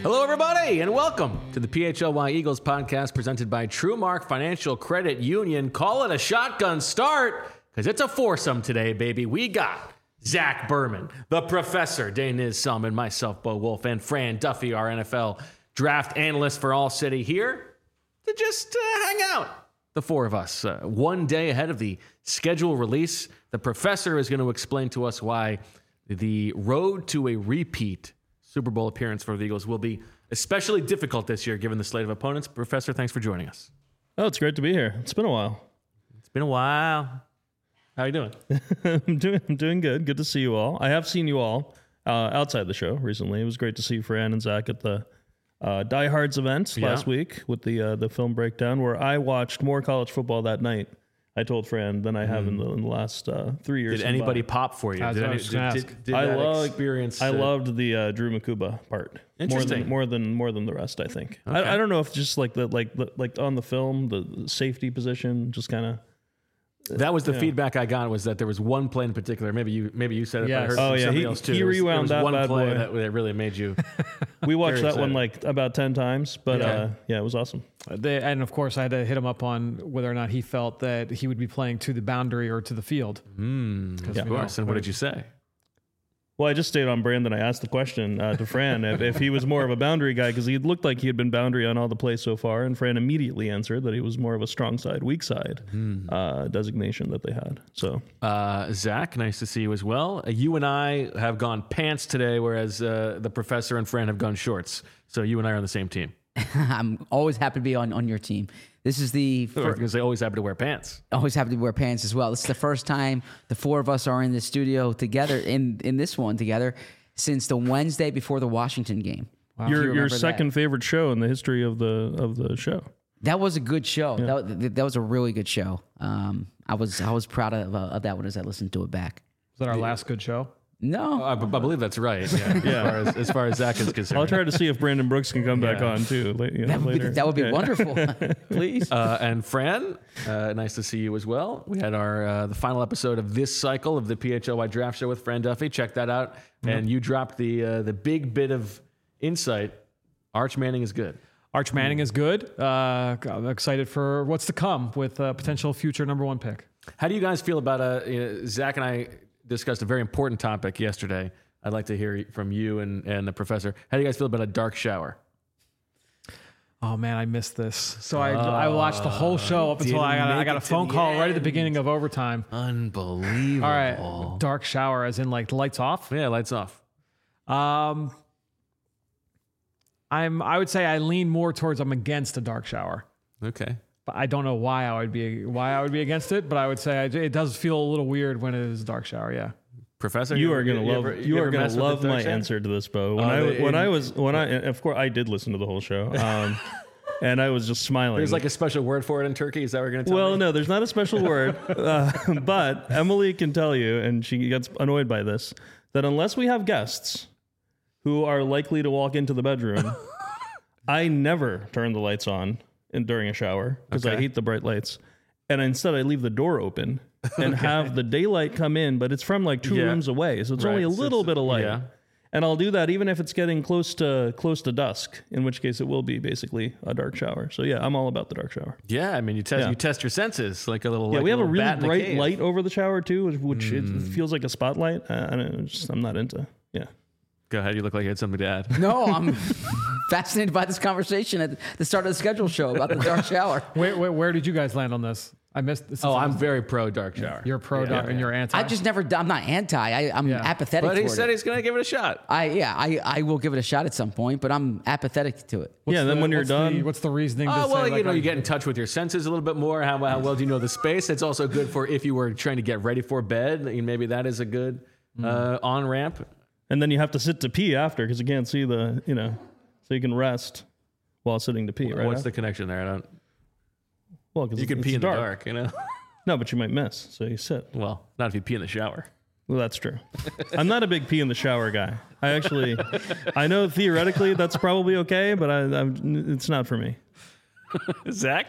Hello, everybody, and welcome to the PHLY Eagles podcast presented by TrueMark Financial Credit Union. Call it a shotgun start, because it's a foursome today, baby. We got Zach Berman, the professor, Daniz Selman, myself, Bo Wolf, and Fran Duffy, our NFL draft analyst for All City, here to just hang out. The four of us, one day ahead of the schedule release. The professor is going to explain to us why the road to a repeat Super Bowl appearance for the Eagles will be especially difficult this year, given the slate of opponents. Professor, thanks for joining us. Oh, it's great to be here. It's been a while. It's been a while. How are you doing? I'm doing good. Good to see you all. I have seen you all outside the show recently. It was great to see Fran and Zach at the Die Hards event last week with the film breakdown, where I watched more college football that night, I told Fran, than I have in the last 3 years. Did anybody pop for you? Did I loved the Drew Makuba part. Interesting. More than the rest, I think. Okay. I don't know if just like on the film, the safety position just kind of. That was the feedback I got, was that there was one play in particular. Maybe you said it. Yes. But I heard somebody else too. He rewound that one bad play boy. that really made you. We watched that one like about 10 times, but it was awesome. And of course, I had to hit him up on whether or not he felt that he would be playing to the boundary or to the field. Of course. And what did you say? Well, I just stayed on brand, and I asked the question to Fran if he was more of a boundary guy, because he looked like he had been boundary on all the plays so far, and Fran immediately answered that he was more of a strong side, weak side designation that they had. So, Zach, nice to see you as well. You and I have gone pants today, whereas the professor and Fran have gone shorts. So you and I are on the same team. I'm always happy to be on your team. This is because they always happen to wear pants. Always happy to wear pants as well. This is the first time the four of us are in the studio together in this one together since the Wednesday before the Washington game. Wow. Your second favorite show in the history of the show. That was a good show. Yeah. That was a really good show. I was proud of that one as I listened to it back. Was that our last good show? No, I believe that's right. Yeah. As far as Zach is concerned. I'll try to see if Brandon Brooks can come back on too later. That would be wonderful. Please. And Fran, nice to see you as well. We had the final episode of this cycle of the PHLY Draft Show with Fran Duffy. Check that out. Mm-hmm. And you dropped the big bit of insight. Arch Manning is good. Arch Manning is good. I'm excited for what's to come with a potential future number one pick. How do you guys feel about Zach and I discussed a very important topic yesterday. I'd like to hear from you and the professor. How do you guys feel about a dark shower? Oh man, I missed this. So I watched the whole show up until I got a phone call right at the beginning of overtime. Unbelievable. All right, dark shower as in like the lights off? Yeah, lights off. I would say I lean more towards I'm against a dark shower. Okay. But I don't know why I would be against it, but I would say it does feel a little weird when it is a dark shower. Yeah. Professor, you are going to love my answer to this, Bo. Of course I did listen to the whole show. And I was just smiling. There's like a special word for it in Turkey. Is that what you're going to tell me? Well, no, there's not a special word. But Emily can tell you, and she gets annoyed by this, that unless we have guests who are likely to walk into the bedroom, I never turn the lights on during a shower because I hate the bright lights. And instead I leave the door open and have the daylight come in, but it's from like two rooms away. So it's only a little bit of light. Yeah. And I'll do that even if it's getting close to dusk, in which case it will be basically a dark shower. So yeah, I'm all about the dark shower. Yeah, I mean you test your senses like a little. Yeah, we have a really bright cave. Light over the shower too, which it feels like a spotlight. I'm not into. Yeah. Go ahead. You look like you had something to add. No, I'm fascinated by this conversation at the start of the schedule show about the dark shower. Where did you guys land on this? I missed this. I'm very pro dark shower. You're pro dark and you're anti. I'm not anti. I'm apathetic. But he said he's going to give it a shot. I will give it a shot at some point, but I'm apathetic to it. Then when you're done, what's the reasoning? You get in touch with your senses a little bit more. How well do you know the space? It's also good for if you were trying to get ready for bed. Maybe that is a good on ramp. And then you have to sit to pee after because you can't see so you can rest while sitting to pee. Right? What's the connection there? I don't. Well, because you can pee in the dark, No, but you might miss, so you sit. Well, not if you pee in the shower. Well, that's true. I'm not a big pee in the shower guy. I know theoretically that's probably okay, but it's not for me. Zach?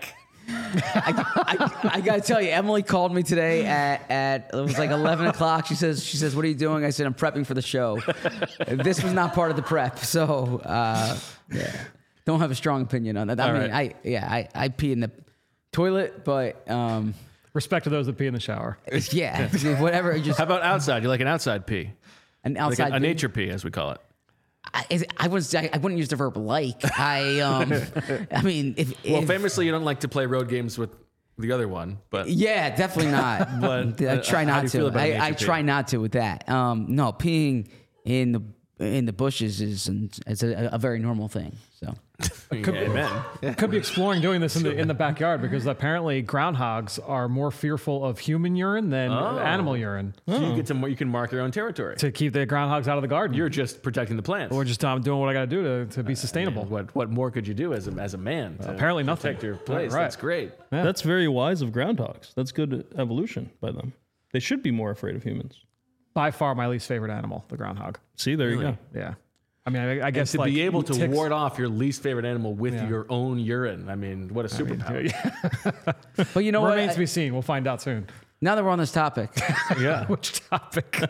I gotta tell you, Emily called me today at it was like 11 o'clock. She says, "What are you doing?" I said, "I'm prepping for the show." This was not part of the prep, so yeah, don't have a strong opinion on that. I pee in the toilet, but Respect to those that pee in the shower. yeah, whatever. Just How about outside? You like an outside pee? an Like outside a nature pee, as we call it. I wouldn't use the verb like. I mean, Well, famously, you don't like to play road games with the other one, but yeah, definitely not. But, I try how do not you feel to. about a I nature try pee? not to with that. No, peeing in the bushes is a very normal thing. So amen. Could be exploring doing this in the backyard because apparently groundhogs are more fearful of human urine than animal urine. So you can mark your own territory. To keep the groundhogs out of the garden. You're just protecting the plants. Or just doing what I got to do to be sustainable. What more could you do as a man? To Apparently nothing. Protect your place. Right. That's great. Yeah. That's very wise of groundhogs. That's good evolution by them. They should be more afraid of humans. By far my least favorite animal, the groundhog. See, there you go. Yeah. I mean, I guess To like be able to ticks- ward off your least favorite animal with Yeah. your own urine. I mean, what a superpower. but you know what? Remains to be seen. We'll find out soon. Now that we're on this topic, Yeah. Which topic?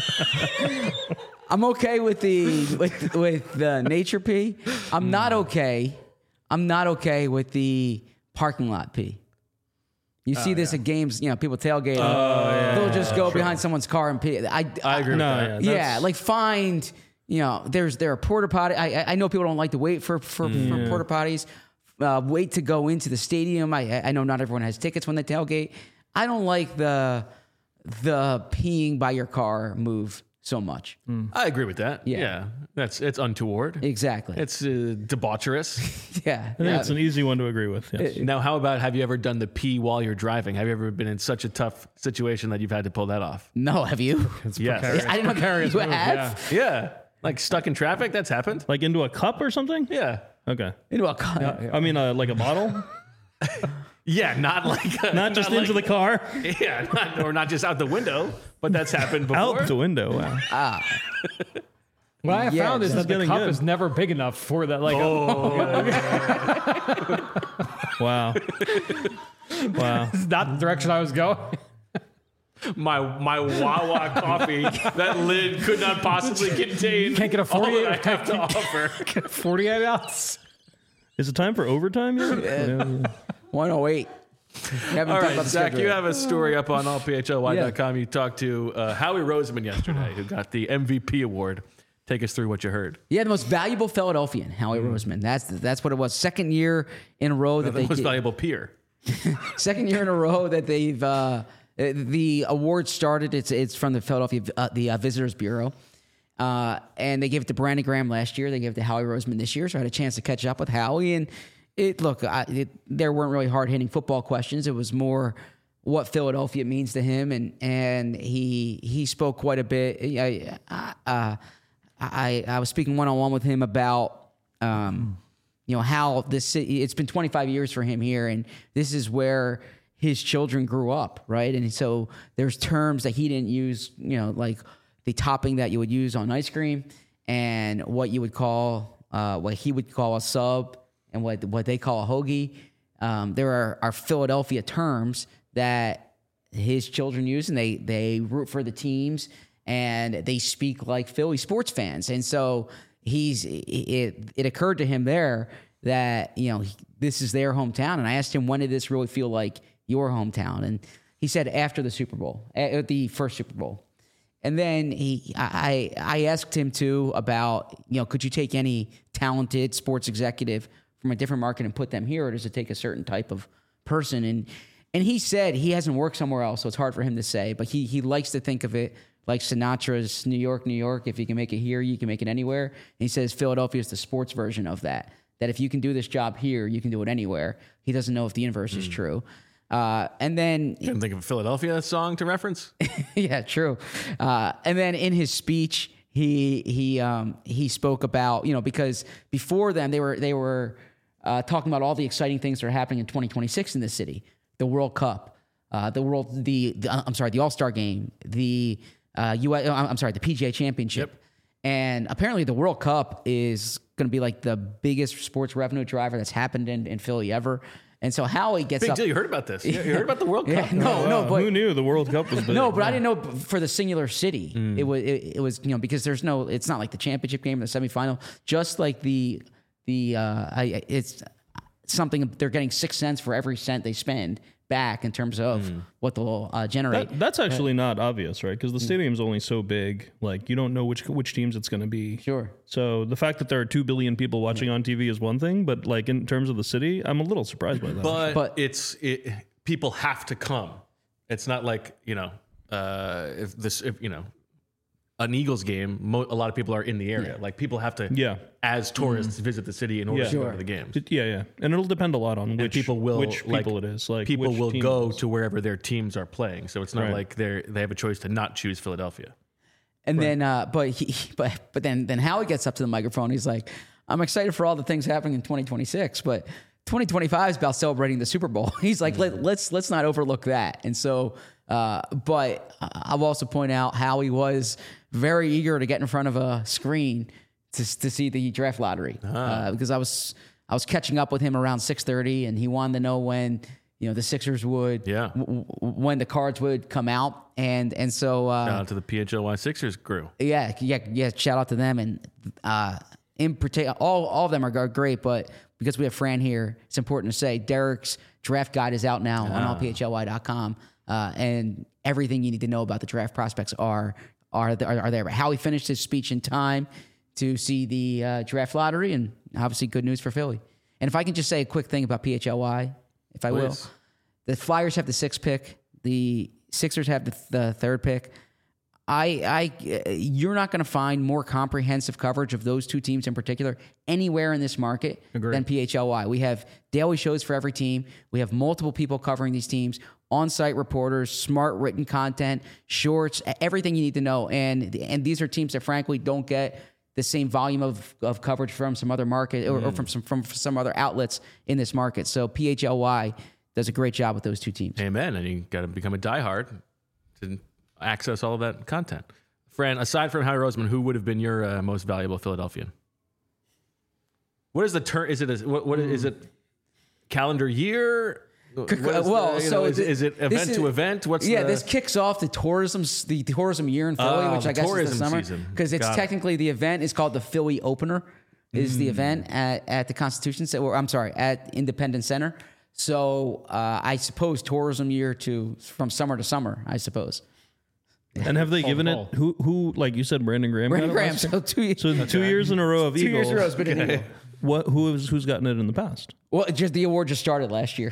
I'm okay with the nature pee. I'm not okay with the parking lot pee. You see this at games, people tailgate. They'll just go behind someone's car and pee. I agree with that. Yeah, like find, there are porta potty. I know people don't like to wait for porta potties. Wait to go into the stadium. I know not everyone has tickets when they tailgate. I don't like the peeing by your car move so much. I agree with that. Yeah. It's untoward. Exactly. It's debaucherous. yeah. I think it's an easy one to agree with. Yes. Now, how about, have you ever done the pee while you're driving? Have you ever been in such a tough situation that you've had to pull that off? No, have you? Yes. I didn't know Precarious you move, have. Yeah. Like stuck in traffic? That's happened? Like into a cup or something? Yeah. Okay. Into a car. I mean, like a bottle? Yeah, not like... Not just into the car? Yeah, or not just out the window, but that's happened before. Out the window. Wow. What I have Yeah, found is this that is the getting cup good. is never big enough for that. Like, Wow. Wow. it's not the direction I was going. My Wawa coffee, that lid could not possibly contain Can't get a all 48 that I have to offer. 48 ounce. Is it time for overtime yet? 108. All right, Zach, you have a story up on allphly.com. You talked to Howie Roseman yesterday, who got the MVP award. Take us through what you heard. Yeah, the most valuable Philadelphian, Howie Roseman. That's what it was. Second year in a row that The most valuable peer. second year in a row that they've the award started. It's from the Philadelphia Visitors Bureau, and they gave it to Brandon Graham last year. They gave it to Howie Roseman this year. So I had a chance to catch up with Howie, and there weren't really hard hitting football questions. It was more what Philadelphia means to him, and he spoke quite a bit. I was speaking one-on-one with him about how this city, it's been 25 years for him here, and this is where his children grew up, right? And so there's terms that he didn't use, like the topping that you would use on ice cream, and what you would call, what he would call a sub, and what they call a hoagie. There are Philadelphia terms that his children use, and they root for the teams, and they speak like Philly sports fans. And so it occurred to him there that, this is their hometown. And I asked him, when did this really feel like your hometown? And he said after the Super Bowl, at the first Super Bowl. And then I asked him too about, could you take any talented sports executive from a different market and put them here, or does it take a certain type of person? And he said he hasn't worked somewhere else, so it's hard for him to say, but he likes to think of it like Sinatra's New York, New York. If you can make it here, you can make it anywhere. And he says Philadelphia is the sports version of that if you can do this job here, you can do it anywhere. He doesn't know if the inverse is true. And then... You can think of a Philadelphia song to reference? Yeah, true. And then in his speech, he spoke about, because before then they were talking about all the exciting things that are happening in 2026 in this city. The World Cup, the All-Star Game, the PGA Championship. Yep. And apparently the World Cup is going to be like the biggest sports revenue driver that's happened in Philly ever. And so Howie gets Big up. deal. You heard about this? You heard about the World Cup? No, but who knew the World Cup was big? no, but I didn't know for the singular city. It was because there's no. It's not like the championship game or the semifinal. Just like it's something they're getting 6 cents for every cent they spend back in terms of what they'll generate. That's actually not obvious, right? Because the stadium's only so big. Like, you don't know which teams it's going to be. Sure. So the fact that there are 2 billion people watching on TV is one thing, but like in terms of the city, I'm a little surprised by that. But people have to come. It's not like, if an Eagles game, a lot of people are in the area. Like, people have to, as tourists, visit the city in order to go to the games. Yeah. And it'll depend a lot on which people it is. Like, people will go is. to wherever their teams are playing. So it's not like they have a choice to not choose Philadelphia. And then, but then Howie gets up to the microphone. He's like, "I'm excited for all the things happening in 2026, but 2025 is about celebrating the Super Bowl." He's like, let's not overlook that. And so, but I'll also point out Howie was very eager to get in front of a screen to see the draft lottery because I was catching up with him around 6:30, and he wanted to know when the Sixers would when the cards would come out, and so shout out to the PHLY Sixers crew. Yeah. Shout out to them, and in particular, all of them are great, but because we have Fran here, it's important to say Derek's draft guide is out now on allphly.com, and everything you need to know about the draft prospects are there. But Howie finished his speech in time to see the draft lottery, and obviously good news for Philly. And if I can just say a quick thing about PHLY, if I will, the Flyers have the 6th pick, the Sixers have the 3rd pick. You're not going to find more comprehensive coverage of those 2 teams in particular anywhere in this market than PHLY. We have daily shows for every team. We have multiple people covering these teams, on-site reporters, smart written content, shorts, everything you need to know. And these are teams that frankly don't get the same volume of coverage from some other market or from some other outlets in this market. So PHLY does a great job with those 2 teams. Amen. And you got to become a diehard to access all of that content. Fran, aside from Howie Roseman, who would have been your most valuable Philadelphian? What is the term? Is it calendar year? Is it event to event? This kicks off the tourism year in Philly, which I guess is the summer, because it's technically the event is called the Philly Opener. Is the event at the Constitution Center? Or I'm sorry, at Independence Center. So I suppose tourism year from summer to summer. I suppose. And have they given it who like you said, Brandon Graham? Brandon Graham. So 2 years. So 2 years in a row of Eagles. 2 years in a row has been an Eagle. Who's gotten it in the past? Well, the award just started last year.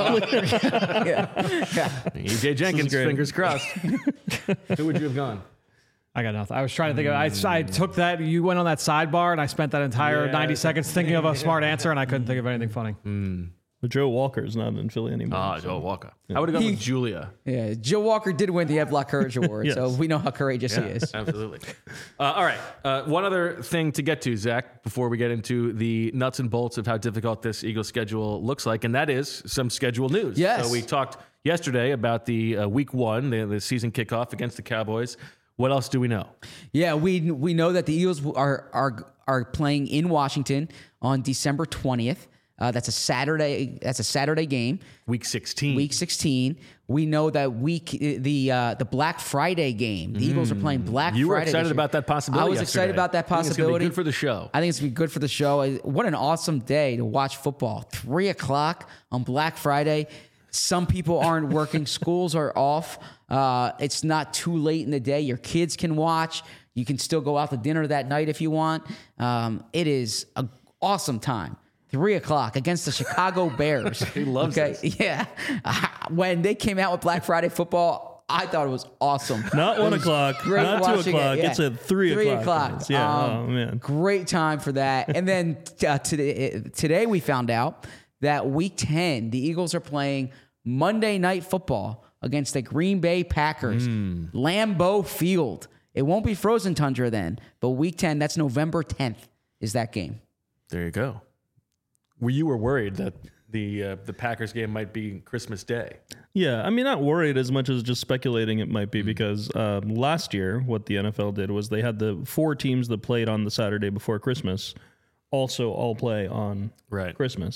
EJ Jenkins, fingers crossed. Who would you have gone? I got nothing. I was trying to think of. I took that. You went on that sidebar, and I spent that entire 90 seconds thinking of a smart answer, and I couldn't think of anything funny. But Joe Walker's not in Philly anymore. Joe Walker. I would have gone with Julia. Yeah, Joe Walker did win the Evlock Courage Award, so we know how courageous he is. Absolutely. All right. One other thing to get to, Zach, before we get into the nuts and bolts of how difficult this Eagles schedule looks like, and that is some schedule news. Yes. So we talked yesterday about the week 1, the season kickoff against the Cowboys. What else do we know? Yeah, we know that the Eagles are playing in Washington on December 20th. That's a Saturday. That's a Saturday game. Week 16. Week 16. We know that the Black Friday game. The Eagles are playing Black Friday. You were excited about that possibility. I was excited about that possibility. I think it's going to be good for the show. I think it's going to be good for the show. What an awesome day to watch football. 3:00 on Black Friday. Some people aren't working. Schools are off. It's not too late in the day. Your kids can watch. You can still go out to dinner that night if you want. It is an awesome time. 3:00 against the Chicago Bears. He loves this. Yeah. When they came out with Black Friday football, I thought it was awesome. Not 1 o'clock, not 2 o'clock. It's at 3 o'clock. Yeah. Oh man. Great time for that. And then today we found out that week 10, the Eagles are playing Monday Night Football against the Green Bay Packers. Lambeau Field. It won't be frozen tundra then, but week 10, that's November 10th, is that game. There you go. You were worried that the Packers game might be Christmas Day. Yeah, I mean, not worried as much as just speculating it might be because last year what the NFL did was they had the 4 teams that played on the Saturday before Christmas also all play on Christmas.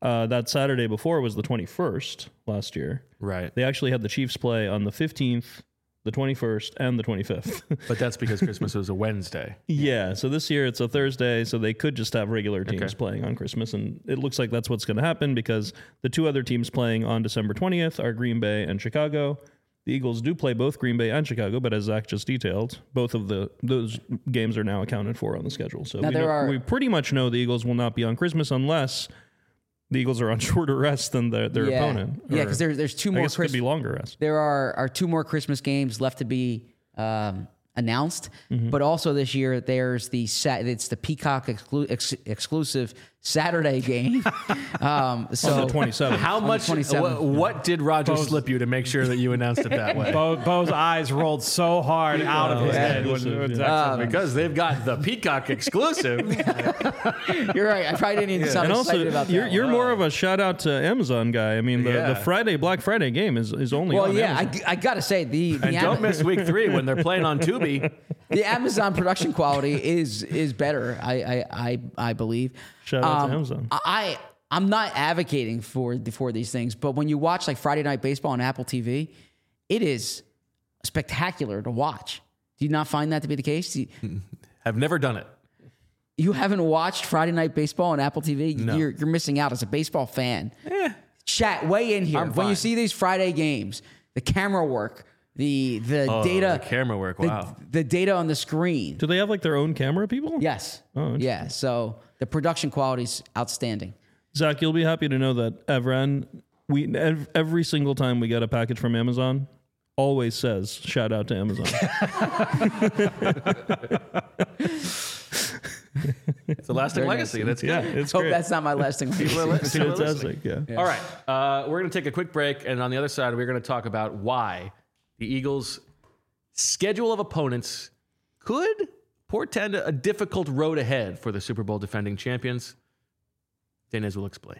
That Saturday before was the 21st last year. Right. They actually had the Chiefs play on the 15th, the 21st, and the 25th. But that's because Christmas was a Wednesday. Yeah, so this year it's a Thursday, so they could just have regular teams Okay. playing on Christmas, and it looks like that's what's going to happen because the two other teams playing on December 20th are Green Bay and Chicago. The Eagles do play both Green Bay and Chicago, but as Zach just detailed, both of those games are now accounted for on the schedule. So we pretty much know the Eagles will not be on Christmas unless the Eagles are on shorter rest than their opponent. Yeah, because there's two more. I guess it could be longer rest. There are two more Christmas games left to be announced, Mm-hmm. but also this year there's it's the Peacock exclusive Saturday game. So On the 27th. How much? 27th. What did Roger slip you to make sure that you announced it that way? Bo's eyes rolled so hard out of his head when Zach said Because they've got the Peacock exclusive. You're right. I probably didn't even sound And excited about also, that. you're more of a shout out to Amazon guy. I mean, the Black Friday game is only Well, on yeah, Amazon. I got to say And don't miss week 3 when they're playing on Tubi. the Amazon production quality is better. I believe. Shout out to Amazon. I'm not advocating for these things, but when you watch like Friday Night Baseball on Apple TV, it is spectacular to watch. Do you not find that to be the case? I've never done it. You haven't watched Friday Night Baseball on Apple TV? No. You're missing out as a baseball fan. Chat, weigh in here. I'm When you fine. see these Friday games, the camera work, the data, The camera work. Wow. the data on the screen. Do they have like their own camera people? Yes. Oh, interesting. yeah. So the production quality is outstanding. Zach, you'll be happy to know that Evren, every single time we get a package from Amazon, always says shout out to Amazon. It's a lasting Very legacy. nice. That's good. Yeah, it's Hope great. that's not my lasting legacy. It's fantastic. Yeah. All right. We're going to take a quick break. And on the other side, we're going to talk about why the Eagles' schedule of opponents could portend a difficult road ahead for the Super Bowl defending champions. Denez will explain.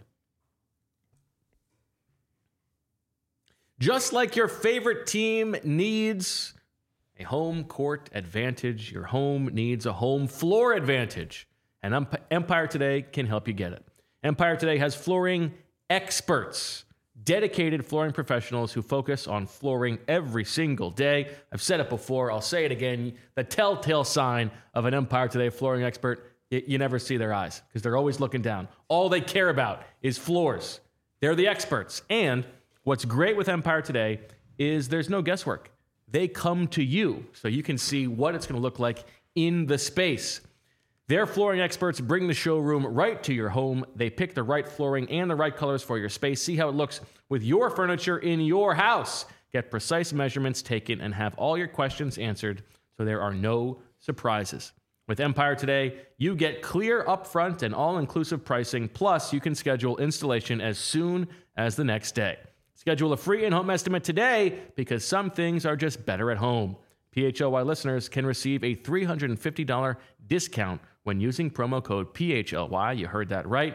Just like your favorite team needs a home court advantage, your home needs a home floor advantage. And Empire Today can help you get it. Empire Today has flooring experts, dedicated flooring professionals who focus on flooring every single day. I've said it before, I'll say it again. The telltale sign of an Empire Today flooring expert, you never see their eyes because they're always looking down. All they care about is floors. They're the experts. And what's great with Empire Today is there's no guesswork. They come to you so you can see what it's going to look like in the space. Their flooring experts bring the showroom right to your home. They pick the right flooring and the right colors for your space. See how it looks with your furniture in your house. Get precise measurements taken and have all your questions answered so there are no surprises. With Empire Today, you get clear upfront and all-inclusive pricing, plus you can schedule installation as soon as the next day. Schedule a free in-home estimate today because some things are just better at home. PHLY listeners can receive a $350 discount when using promo code PHLY. You heard that right.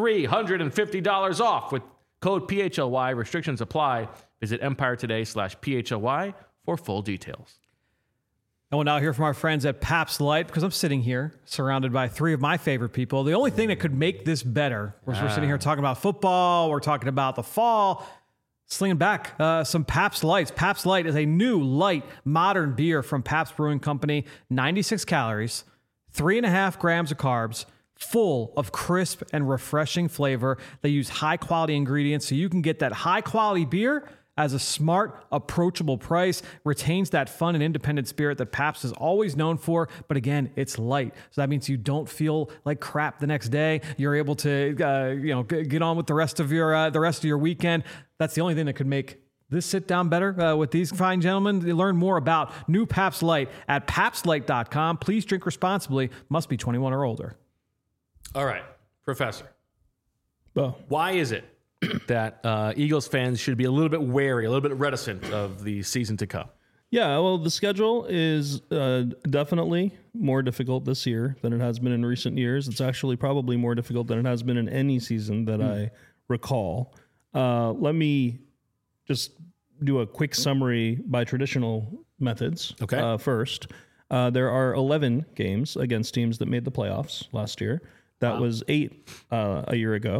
$350 off with code PHLY. Restrictions apply. Visit EmpireToday/PHLY for full details. And we'll now hear from our friends at Pabst Light because I'm sitting here surrounded by three of my favorite people. The only thing that could make this better was we're sitting here talking about football. We're talking about the fall. Slinging back some Pabst Lights. Pabst Light is a new, light, modern beer from Pabst Brewing Company. 96 calories, 3.5 grams of carbs, full of crisp and refreshing flavor. They use high-quality ingredients so you can get that high-quality beer as a smart, approachable price, retains that fun and independent spirit that Pabst is always known for. But again, it's light. So that means you don't feel like crap the next day. You're able to, get on with the rest of your weekend. That's the only thing that could make this sit down better with these fine gentlemen. You learn more about new Pabst Light at PabstLight.com. Please drink responsibly. Must be 21 or older. All right, Professor. Well, Why is it that Eagles fans should be a little bit wary, a little bit reticent of the season to come? yeah, well, the schedule is definitely more difficult this year than it has been in recent years. It's actually probably more difficult than it has been in any season that I recall. Let me just do a quick summary by traditional methods. Okay. First, there are 11 games against teams that made the playoffs last year. That was 8 a year ago.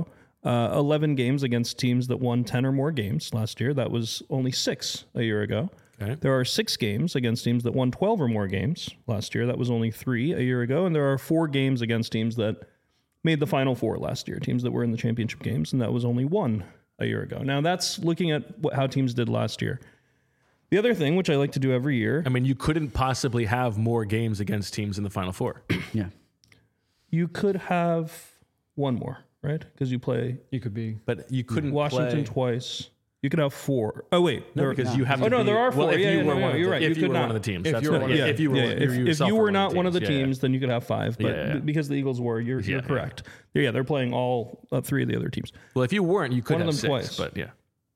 11 games against teams that won 10 or more games last year. That was only 6 a year ago. Okay. There are 6 games against teams that won 12 or more games last year. That was only 3 a year ago. And there are 4 games against teams that made the Final Four last year, teams that were in the championship games, and that was only 1 a year ago. Now, that's looking at how teams did last year. The other thing, which I like to do every year... I mean, you couldn't possibly have more games against teams in the Final Four. Yeah. You could have 1 more, right? Because you play You could be. But you couldn't Washington play... twice. You could have 4. Oh, wait. No, because you have to Oh, no, be- there are 4. Well, if Yeah, you yeah, were no, one of you're the, right. if You you could were not. one of the teams. If That's you were right. one of the- If you were, If yourself you were one not one of the yeah, teams, then you could have 5. But Yeah. because the Eagles were, you're Yeah. correct. Yeah, they're playing all 3 of the other teams. Well, if you weren't, you could One of have them 6. twice. But yeah.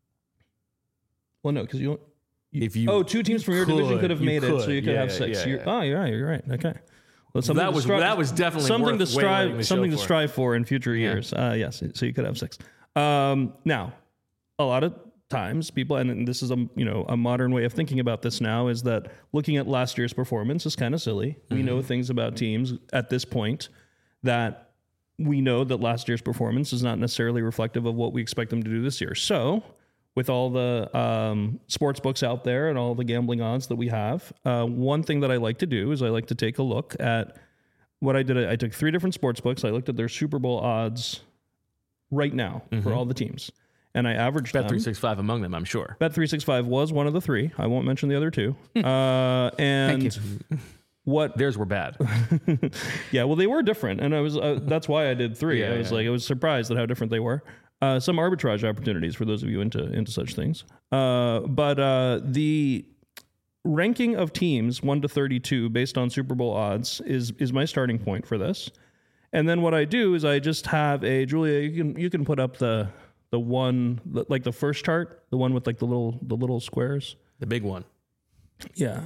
Well, no, because you If you... Oh, 2 teams from your division could have you made it, so you could Yeah, have yeah, 6. yeah, yeah. Oh, you're right. You're right. Okay. Well, That was definitely something worth to waylaying the strive something show to for. strive for in future years. Yes, so you could have 6. Now, a lot of times people, and this is a modern way of thinking about this now, is that looking at last year's performance is kind of silly. We know things about teams at this point that we know that last year's performance is not necessarily reflective of what we expect them to do this year. So, with all the sports books out there and all the gambling odds that we have, one thing that I like to do is I like to take a look at what I did. I took 3 different sports books. I looked at their Super Bowl odds right now for all the teams, and I averaged them. Bet365 among them, I'm sure. Bet365 was one of the 3. I won't mention the other 2. And Thank you. what? Theirs were bad. Yeah, well, they were different, and I was that's why I did 3. Yeah, I was surprised at how different they were. Some arbitrage opportunities for those of you into such things. But the ranking of teams 1 to 32 based on Super Bowl odds is my starting point for this. And then what I do is I just have a Julia. You can put up the one like the first chart, the one with like the little squares. The big one. Yeah.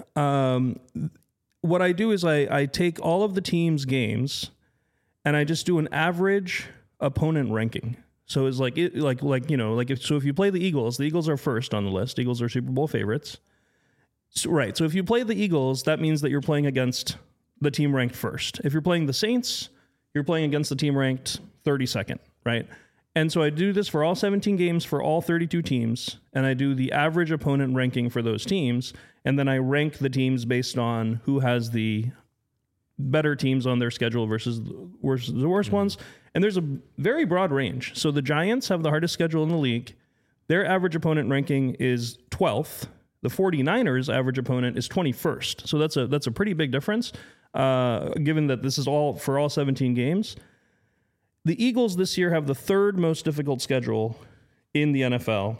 What I do is I take all of the teams' games, and I just do an average opponent ranking. So it's like if you play the Eagles are first on the list. Eagles are Super Bowl favorites. So, right. So if you play the Eagles, that means that you're playing against the team ranked first. If you're playing the Saints, you're playing against the team ranked 32nd, right? And so I do this for all 17 games for all 32 teams, and I do the average opponent ranking for those teams, and then I rank the teams based on who has the better teams on their schedule versus the worst ones. And there's a very broad range. So the Giants have the hardest schedule in the league. Their average opponent ranking is 12th. The 49ers average opponent is 21st. So that's a pretty big difference, given that this is all for all 17 games. The Eagles this year have the 3rd most difficult schedule in the NFL.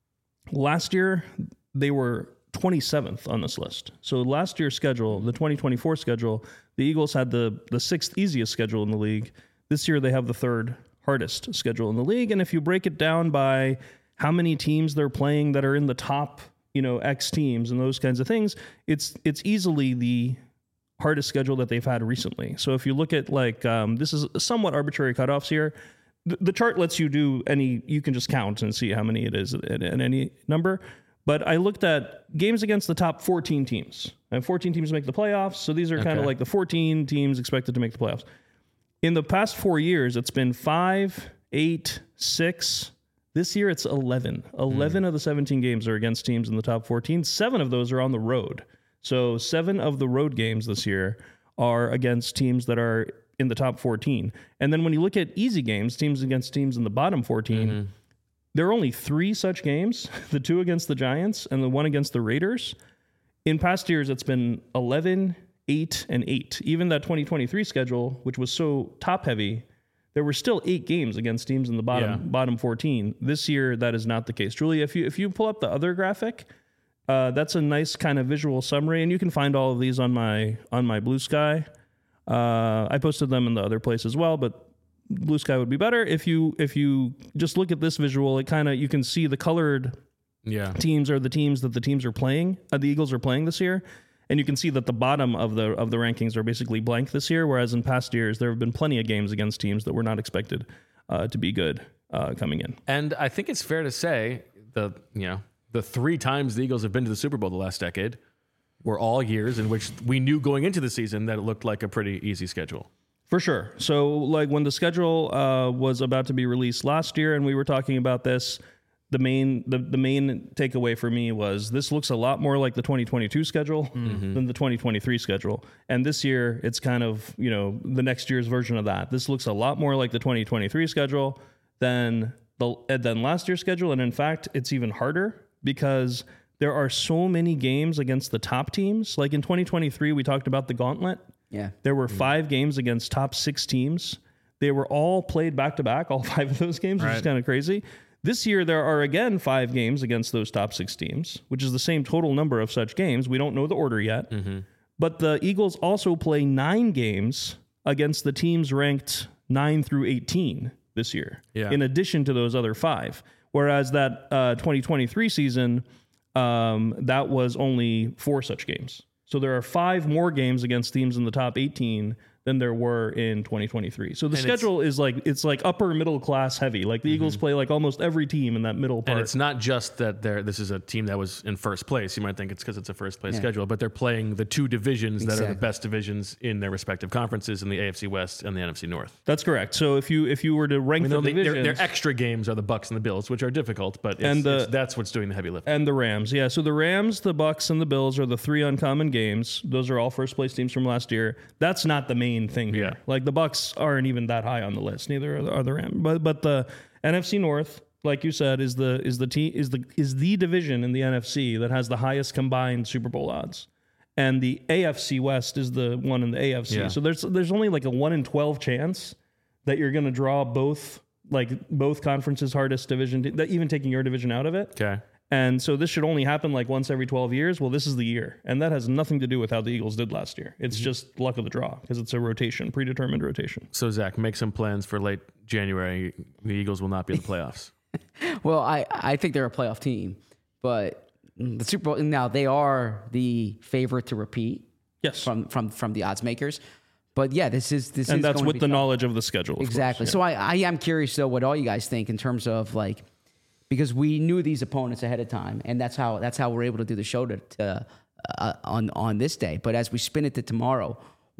Last year, they were 27th on this list. So last year's schedule, the 2024 schedule, the Eagles had the 6th easiest schedule in the league. This year, they have the 3rd hardest schedule in the league. And if you break it down by how many teams they're playing that are in the top, X teams and those kinds of things, it's easily the hardest schedule that they've had recently. So if you look at this is somewhat arbitrary cutoffs here. The chart lets you you can just count and see how many it is at any number. But I looked at games against the top 14 teams. And 14 teams make the playoffs. So these are kind of like the 14 teams expected to make the playoffs. In the past 4 years, it's been 5, 8, 6. This year, it's 11. 11 of the 17 games are against teams in the top 14. 7 of those are on the road. So 7 of the road games this year are against teams that are in the top 14. And then when you look at easy games, teams against teams in the bottom 14, there are only 3 such games, the 2 against the Giants and the 1 against the Raiders. In past years, it's been 11, 8, and 8. Even that 2023 schedule, which was so top-heavy, there were still 8 games against teams in the bottom 14. This year, that is not the case. Julia, if you pull up the other graphic, that's a nice kind of visual summary, and you can find all of these on my Blue Sky. I posted them in the other place as well, but Blue Sky would be better. If you just look at this visual, you can see the colored teams are the teams that the teams are playing. The Eagles are playing this year, and you can see that the bottom of the rankings are basically blank this year. Whereas in past years, there have been plenty of games against teams that were not expected to be good coming in. And I think it's fair to say the 3 times the Eagles have been to the Super Bowl the last decade were all years in which we knew going into the season that it looked like a pretty easy schedule. For sure. So, like when the schedule was about to be released last year, and we were talking about this, the main takeaway for me was this looks a lot more like the 2022 schedule than the 2023 schedule. And this year, it's kind of the next year's version of that. This looks a lot more like the 2023 schedule than last year's schedule, and in fact, it's even harder because there are so many games against the top teams. Like in 2023, we talked about the gauntlet. Yeah. There were 5 games against top 6 teams. They were all played back to back, all 5 of those games, which is kind of crazy. This year, there are again 5 games against those top 6 teams, which is the same total number of such games. We don't know the order yet. But the Eagles also play 9 games against the teams ranked 9 through 18 this year, in addition to those other 5. Whereas that 2023 season, that was only 4 such games. So there are 5 more games against teams in the top 18 than there were in 2023. So the schedule is it's like upper middle class heavy. Like the Eagles play like almost every team in that middle part. And it's not just that this is a team that was in first place. You might think it's because it's a first place schedule, but they're playing the 2 divisions that are the best divisions in their respective conferences in the AFC West and the NFC North. That's correct. So if you were to rank the divisions, their extra games are the Bucs and the Bills, which are difficult, but that's what's doing the heavy lifting. And the Rams. Yeah. So the Rams, the Bucs, and the Bills are the 3 uncommon games. Those are all first place teams from last year. That's not the main thing here. Like the Bucs aren't even that high on the list. Neither are the Rams. But the NFC North, like you said, is the division in the NFC that has the highest combined Super Bowl odds. And the AFC West is the one in the AFC. Yeah. So there's only like a 1 in 12 chance that you're going to draw both conferences' hardest division, even taking your division out of it. Okay. And so this should only happen like once every 12 years. Well, this is the year. And that has nothing to do with how the Eagles did last year. It's just luck of the draw because it's a rotation, predetermined rotation. So, Zach, make some plans for late January. The Eagles will not be in the playoffs. Well, I think they're a playoff team, but the Super Bowl, now they are the favorite to repeat. Yes. From the odds makers. But yeah, this is and that's with the knowledge of the schedule. Exactly. Course, yeah. So I am curious though what all you guys think in terms of like, because we knew these opponents ahead of time, and that's how we're able to do the show on this day. But as we spin it to tomorrow,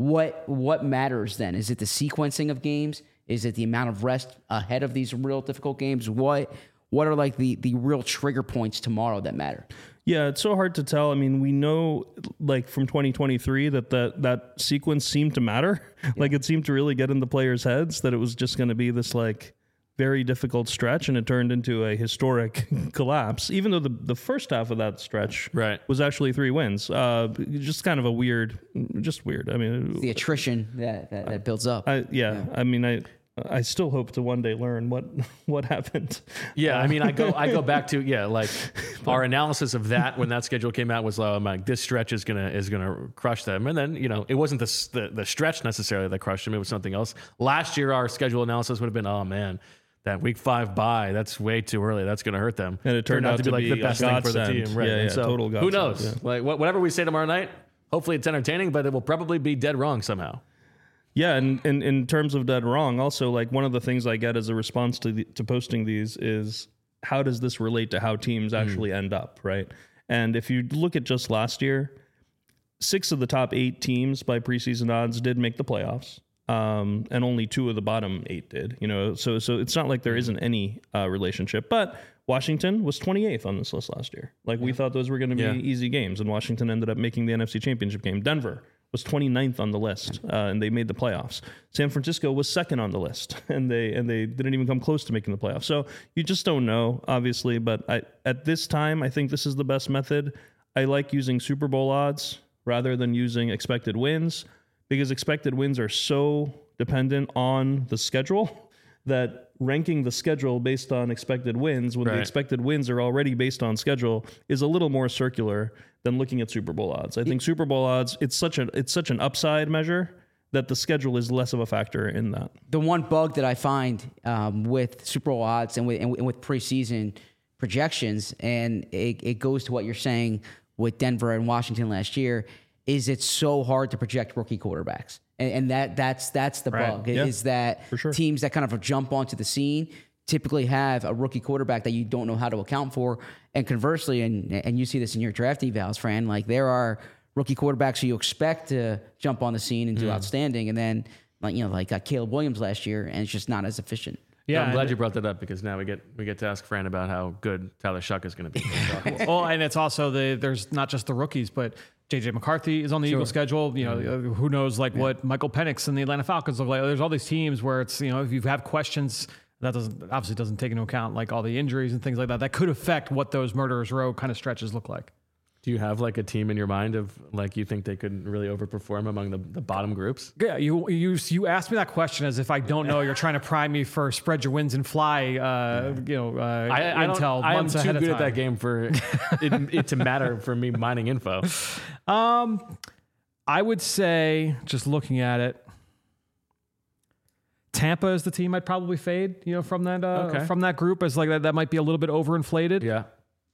what matters then? Is it the sequencing of games? Is it the amount of rest ahead of these real difficult games? What are like the real trigger points tomorrow that matter? Yeah, it's so hard to tell. I mean, we know like from 2023 that sequence seemed to matter. Like it seemed to really get in the players' heads that it was just going to be this like very difficult stretch, and it turned into a historic collapse, even though the first half of that stretch was actually 3 wins. Just kind of weird. I mean, the attrition that builds up. I mean, I still hope to one day learn what happened. Yeah, I mean, I go back to like our analysis of that when that schedule came out was like this stretch is gonna crush them, and then it wasn't the stretch necessarily that crushed them; it was something else. Last year, our schedule analysis would have been, oh man, that week 5 bye, that's way too early. That's going to hurt them. And it turned out to be like the best thing for the team. Right. Yeah, so total godsend. Who knows? Yeah. Like whatever we say tomorrow night, hopefully it's entertaining, but it will probably be dead wrong somehow. Yeah, and in terms of dead wrong, also like one of the things I get as a response to posting these is how does this relate to how teams actually end up, right? And if you look at just last year, 6 of the top 8 teams by preseason odds did make the playoffs. And only 2 of the bottom 8 did, so it's not like there isn't any relationship, but Washington was 28th on this list last year. Like we thought those were going to be easy games, and Washington ended up making the NFC Championship game. Denver was 29th on the list, and they made the playoffs. San Francisco was 2nd on the list, and they didn't even come close to making the playoffs. So you just don't know, obviously, but at this time, I think this is the best method. I like using Super Bowl odds rather than using expected wins, because expected wins are so dependent on the schedule that ranking the schedule based on expected wins when the expected wins are already based on schedule is a little more circular than looking at Super Bowl odds. I think Super Bowl odds, it's such an upside measure that the schedule is less of a factor in that. The one bug that I find with Super Bowl odds and with preseason projections, and it goes to what you're saying with Denver and Washington last year, is it's so hard to project rookie quarterbacks. And that's the bug, is that teams that kind of jump onto the scene typically have a rookie quarterback that you don't know how to account for. And conversely, and you see this in your draft evals, Fran, like there are rookie quarterbacks who you expect to jump on the scene and do outstanding, and then like Caleb Williams last year, and it's just not as efficient. Yeah, I'm glad you brought that up because now we get to ask Fran about how good Tyler Shuck is going to be. Well, and it's also there's not just the rookies, but JJ McCarthy is on the Eagles schedule. You know, who knows what Michael Penix and the Atlanta Falcons look like. There's all these teams where it's, if you have questions, that obviously doesn't take into account like all the injuries and things like that. That could affect what those Murderers Row kind of stretches look like. Do you have like a team in your mind of like you think they could really overperform among the bottom groups? Yeah, you asked me that question as if I don't know. You're trying to prime me for spread your wins and fly. Intel. I am too good at at that game for it to matter for me mining info. I would say, just looking at it, Tampa is the team I'd probably fade. From that group as like that might be a little bit overinflated. Yeah.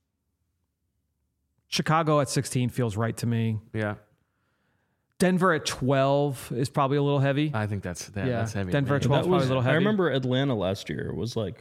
Chicago at 16 feels right to me. Yeah. Denver at 12 is probably a little heavy. I think that's heavy. Denver at 12 is probably a little heavy. I remember Atlanta last year was like,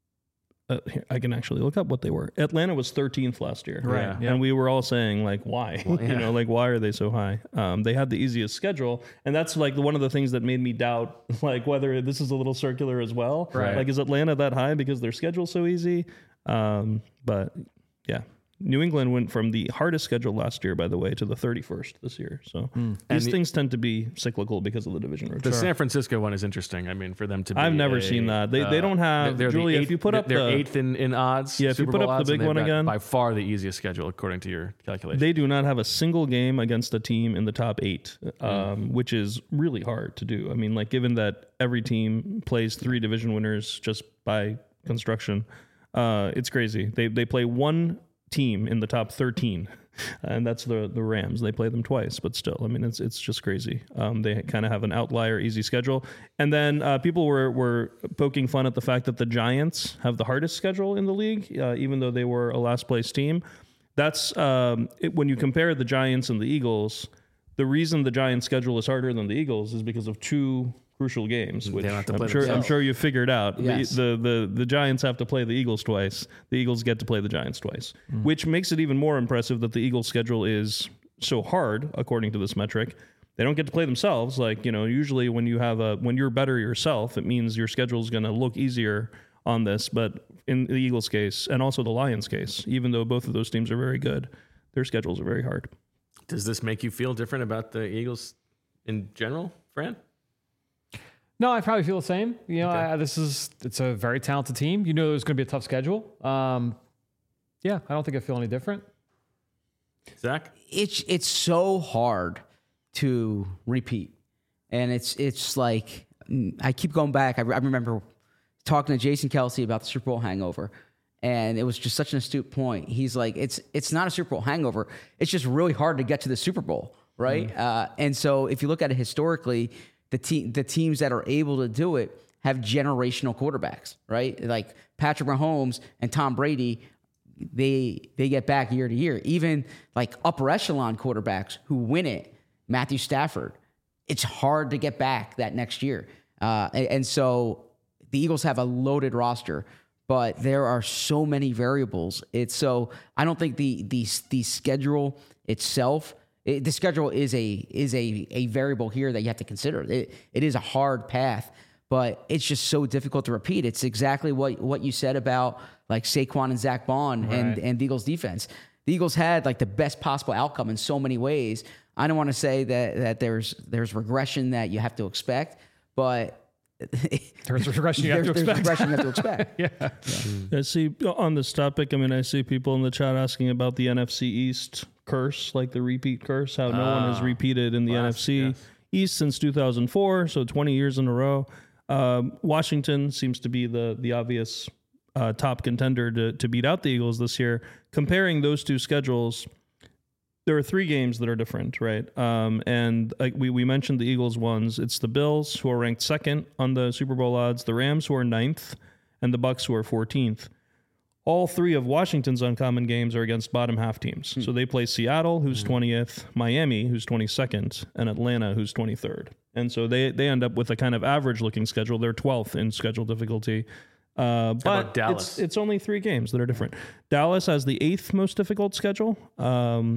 I can actually look up what they were. Atlanta was 13th last year. Right. Yeah. And we were all saying like, why? Well, why are they so high? They had the easiest schedule. And that's like one of the things that made me doubt like whether this is a little circular as well. Right. Like, is Atlanta that high because their schedule's so easy? But yeah. New England went from the hardest schedule last year, by the way, to the 31st this year. So these things tend to be cyclical because of the division rotation. The San Francisco one is interesting. I mean, for them to be I've never seen that. They don't have, Julia, if you put up they're 8th in odds. Yeah, if you put up the big one again. By far the easiest schedule, according to your calculation. They do not have a single game against a team in the top 8, which is really hard to do. I mean, like, given that every team plays 3 division winners just by construction, it's crazy. They play one team in the top 13, and that's the Rams. They play them twice, but still, I mean, it's just crazy. They kind of have an outlier easy schedule, and then people were poking fun at the fact that the Giants have the hardest schedule in the league, even though they were a last place team. That's when you compare the Giants and the Eagles. The reason the Giants' schedule is harder than the Eagles is because of 2 crucial games, which I'm sure you figured out. Yes. The Giants have to play the Eagles twice. The Eagles get to play the Giants twice, which makes it even more impressive that the Eagles' schedule is so hard, according to this metric. They don't get to play themselves. Like, usually when you're better yourself, it means your schedule is going to look easier on this. But in the Eagles' case, and also the Lions' case, even though both of those teams are very good, their schedules are very hard. Does this make you feel different about the Eagles in general, Fran? No, I probably feel the same. It's a very talented team. There's going to be a tough schedule. I don't think I feel any different. Zach? It's so hard to repeat. And it's like, I keep going back. I remember talking to Jason Kelsey about the Super Bowl hangover. And it was just such an astute point. He's like, it's not a Super Bowl hangover. It's just really hard to get to the Super Bowl, right? And so if you look at it historically, the teams that are able to do it have generational quarterbacks, right? Like Patrick Mahomes and Tom Brady, they get back year to year. Even like upper echelon quarterbacks who win it, Matthew Stafford, it's hard to get back that next year. And so the Eagles have a loaded roster, but there are so many variables. I don't think the schedule itself. The schedule is a variable here that you have to consider. It is a hard path, but it's just so difficult to repeat. It's exactly what you said about like Saquon and Zach Bond and the Eagles defense. The Eagles had like the best possible outcome in so many ways. I don't want to say that there's regression that you have to expect, but there's regression you have to expect. Yeah. I see on this topic, I see people in the chat asking about the NFC East curse, like the repeat curse, how no one has repeated in the NFC East since 2004, so 20 years in a row. Washington seems to be the obvious top contender to beat out the Eagles this year. Comparing those two schedules, there are 3 games that are different, right? And we mentioned the Eagles ones. It's the Bills, who are ranked 2nd on the Super Bowl odds, the Rams, who are 9th, and the Bucs, who are 14th. All 3 of Washington's uncommon games are against bottom half teams. So they play Seattle, who's 20th, Miami, who's 22nd, and Atlanta, who's 23rd. And so they end up with a kind of average-looking schedule. They're 12th in schedule difficulty. But Dallas? It's only 3 games that are different. Dallas has the 8th most difficult schedule.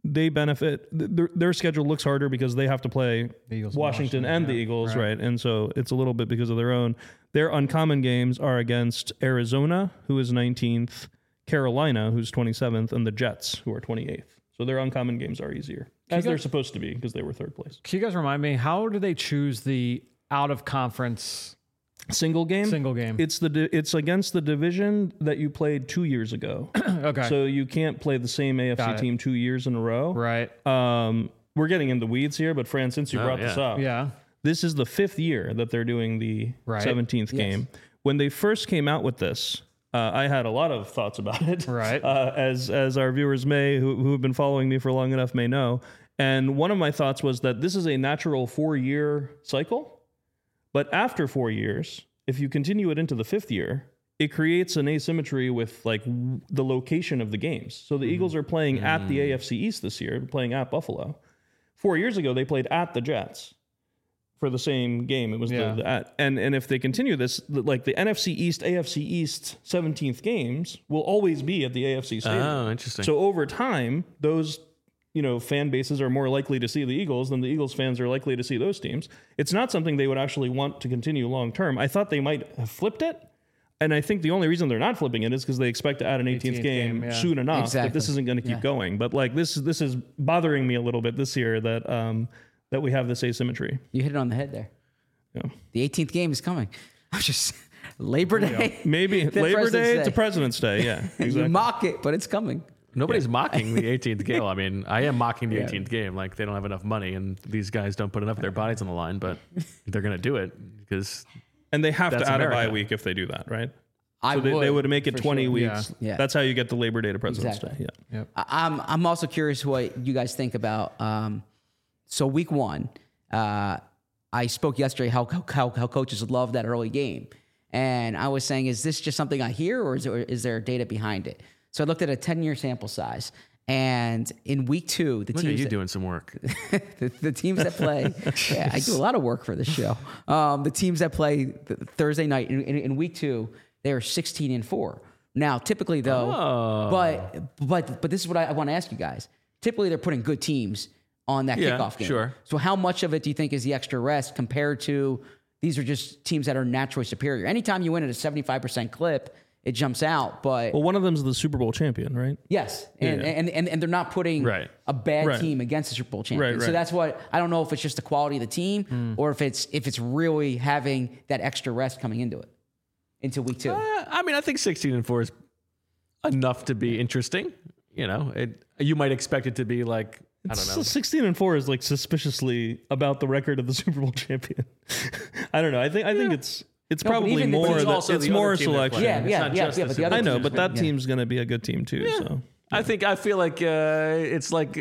they benefit. Their schedule looks harder because they have to play Eagles, Washington and the Eagles, right. right? And so it's a little bit because of their own. Their uncommon games are against Arizona, who is 19th, Carolina, who's 27th, and the Jets, who are 28th. So their uncommon games are easier, as they're supposed to be because they were third place. Can you guys remind me, how do they choose the out of conference Single game? single game? It's against the division that you played 2 years ago. Okay. So you can't play the same Got AFC it. team 2 years in a row. Right. We're getting in the weeds here, but Fran, since you brought this up, Yeah. this is the 5th year that they're doing the Right. 17th game. When they first came out with this, I had a lot of thoughts about it. Right. As our viewers who have been following me for long enough may know. And one of my thoughts was that this is a natural 4-year cycle. But after 4 years, if you continue it into the 5th year, it creates an asymmetry with like the location of the games. So the Eagles are playing at the AFC East this year, playing at Buffalo. 4 years ago, they played at the Jets for the same game. It was and if they continue this, like the NFC East, AFC East 17th games will always be at the AFC Stadium. Oh, interesting. So over time, those fan bases are more likely to see the Eagles than the Eagles fans are likely to see those teams. It's not something they would actually want to continue long term. I thought they might have flipped it. And I think the only reason they're not flipping it is because they expect to add an 18th game soon enough. Exactly. That this isn't going to keep going. But like this is bothering me a little bit this year that we have this asymmetry. You hit it on the head there. Yeah. The 18th game is coming. I'm just Labor Day. Maybe The Labor President's Day Day. to President's Day. Yeah, You exactly. mock it, but it's coming. Nobody's mocking the 18th game. I mean, I am mocking the 18th game. Like, they don't have enough money, and these guys don't put enough of their bodies on the line, but they're going to do it because And they have to That's add a America. bye week if they do that, right? I So they would make it for 20 sure. weeks. Yeah. That's how you get the Labor Day to President's Exactly. Day. Yeah. I'm also curious what you guys think about. So week one, I spoke yesterday how coaches love that early game, and I was saying, is this just something I hear, or is there data behind it? So I looked at a 10-year sample size, and in week two, the look at teams you doing some work. the teams that play, yeah, I do a lot of work for this show. The teams that play Thursday night in week two, they are 16-4. Now, typically though, but this is what I want to ask you guys. Typically, they're putting good teams on that Yeah, kickoff game. sure. So, how much of it do you think is the extra rest compared to these are just teams that are naturally superior? Anytime you win at a 75% clip, it jumps out. But Well, one of them is the Super Bowl champion, right? yes, and they're not putting Right. a bad Right. team against the Super Bowl champion. Right, So right. that's what I don't know if it's just the quality of the team or if it's really having that extra rest coming into week two. I mean, I think 16-4 is enough to be interesting. You know, you might expect it to be like, I don't know. 16-4 is like suspiciously about the record of the Super Bowl champion. I don't know. I think it's but probably even the more teams that also it's the more other team they're selection. playing. Yeah, It's not yeah, just yeah, the but the Super other I Bowl know, teams but that yeah. team's going to be a good team too. So I feel like it's like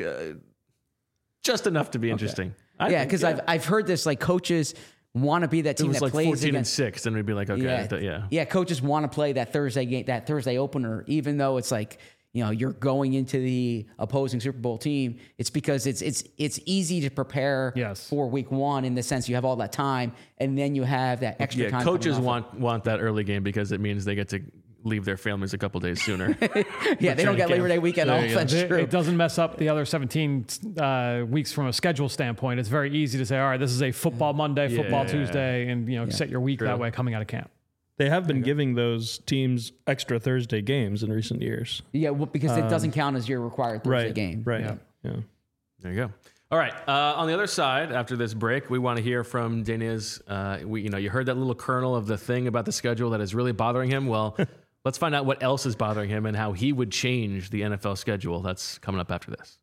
just enough to be interesting. Yeah, because I've heard this, like coaches want to be that it team was that like plays 14-6, against. then we'd be like, okay, yeah. Coaches want to play that Thursday game, that Thursday opener, even though it's like, you're going into the opposing Super Bowl team. It's because it's easy to prepare Yes. for week one in the sense you have all that time, and then you have that extra Yeah, time. coaches coming off want that early game because it means they get to leave their families a couple days sooner. Yeah, they don't get Labor Day weekend off. That's true. It doesn't mess up the other 17 weeks from a schedule standpoint. It's very easy to say, all right, this is a football Monday, football Yeah. Tuesday, and set your week that way coming out of camp. they have been giving those teams extra Thursday games in recent years. Yeah, well, because it doesn't count as your required Thursday game. Right. Yeah. Yeah. There you go. All right. On the other side, after this break, we want to hear from Deniz. You heard that little kernel of the thing about the schedule that is really bothering him. Well, let's find out what else is bothering him and how he would change the NFL schedule. That's coming up after this.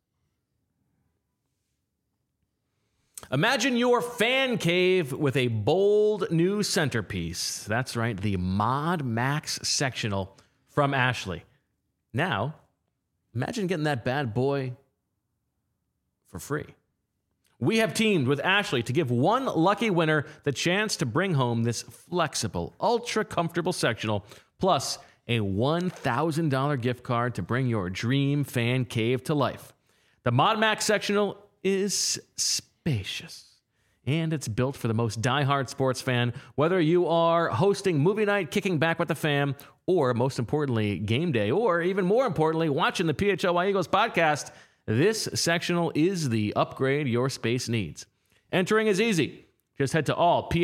Imagine your fan cave with a bold new centerpiece. That's right, the Mod Max sectional from Ashley. Now, imagine getting that bad boy for free. We have teamed with Ashley to give one lucky winner the chance to bring home this flexible, ultra comfortable sectional, plus a $1,000 gift card to bring your dream fan cave to life. The Mod Max sectional is spacious, and it's built for the most diehard sports fan, whether you are hosting movie night, kicking back with the fam, or most importantly, game day, or even more importantly, watching the PHLY Eagles podcast. This sectional is the upgrade your space needs. Entering is easy. Just head to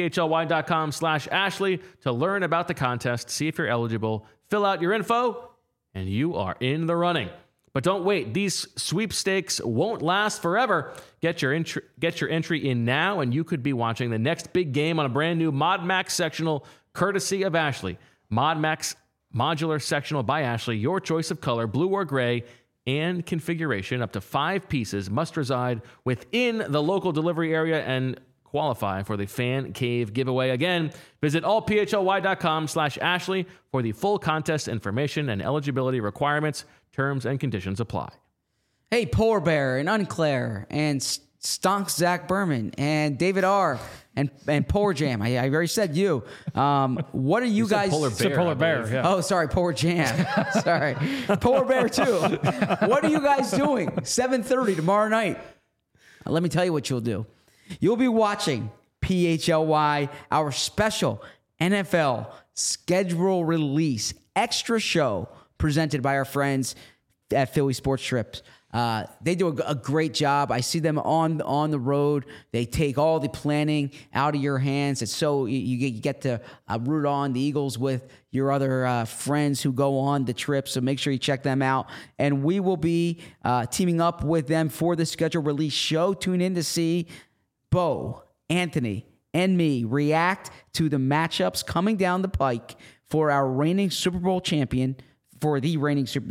allphly.com/Ashley to learn about the contest, see if you're eligible, fill out your info, and you are in the running. But don't wait. These sweepstakes won't last forever. Get your entry in now, and you could be watching the next big game on a brand new Mod Max sectional, courtesy of Ashley. Mod Max Modular Sectional by Ashley, your choice of color, blue or gray, and configuration. Up to 5 pieces must reside within the local delivery area and qualify for the Fan Cave giveaway. Again, visit allphly.com/Ashley for the full contest information and eligibility requirements. Terms and conditions apply. Hey, Polar Bear and Unclair and Stonks Zach Berman and David R. and Polar Jam. I already said you. What are you guys? Polar Bear. Yeah. Oh, sorry, Polar Jam. Sorry, Polar Bear too. What are you guys doing? 7:30 tomorrow night. Let me tell you what you'll do. You'll be watching PHLY, our special NFL schedule release extra show presented by our friends at Philly Sports Trips. They do a great job. I see them on the road. They take all the planning out of your hands. It's so you get to root on the Eagles with your other friends who go on the trip. So make sure you check them out. And we will be teaming up with them for the schedule release show. Tune in to see Bo, Anthony, and me react to the matchups coming down the pike for our reigning Super Bowl champion. For the reigning Super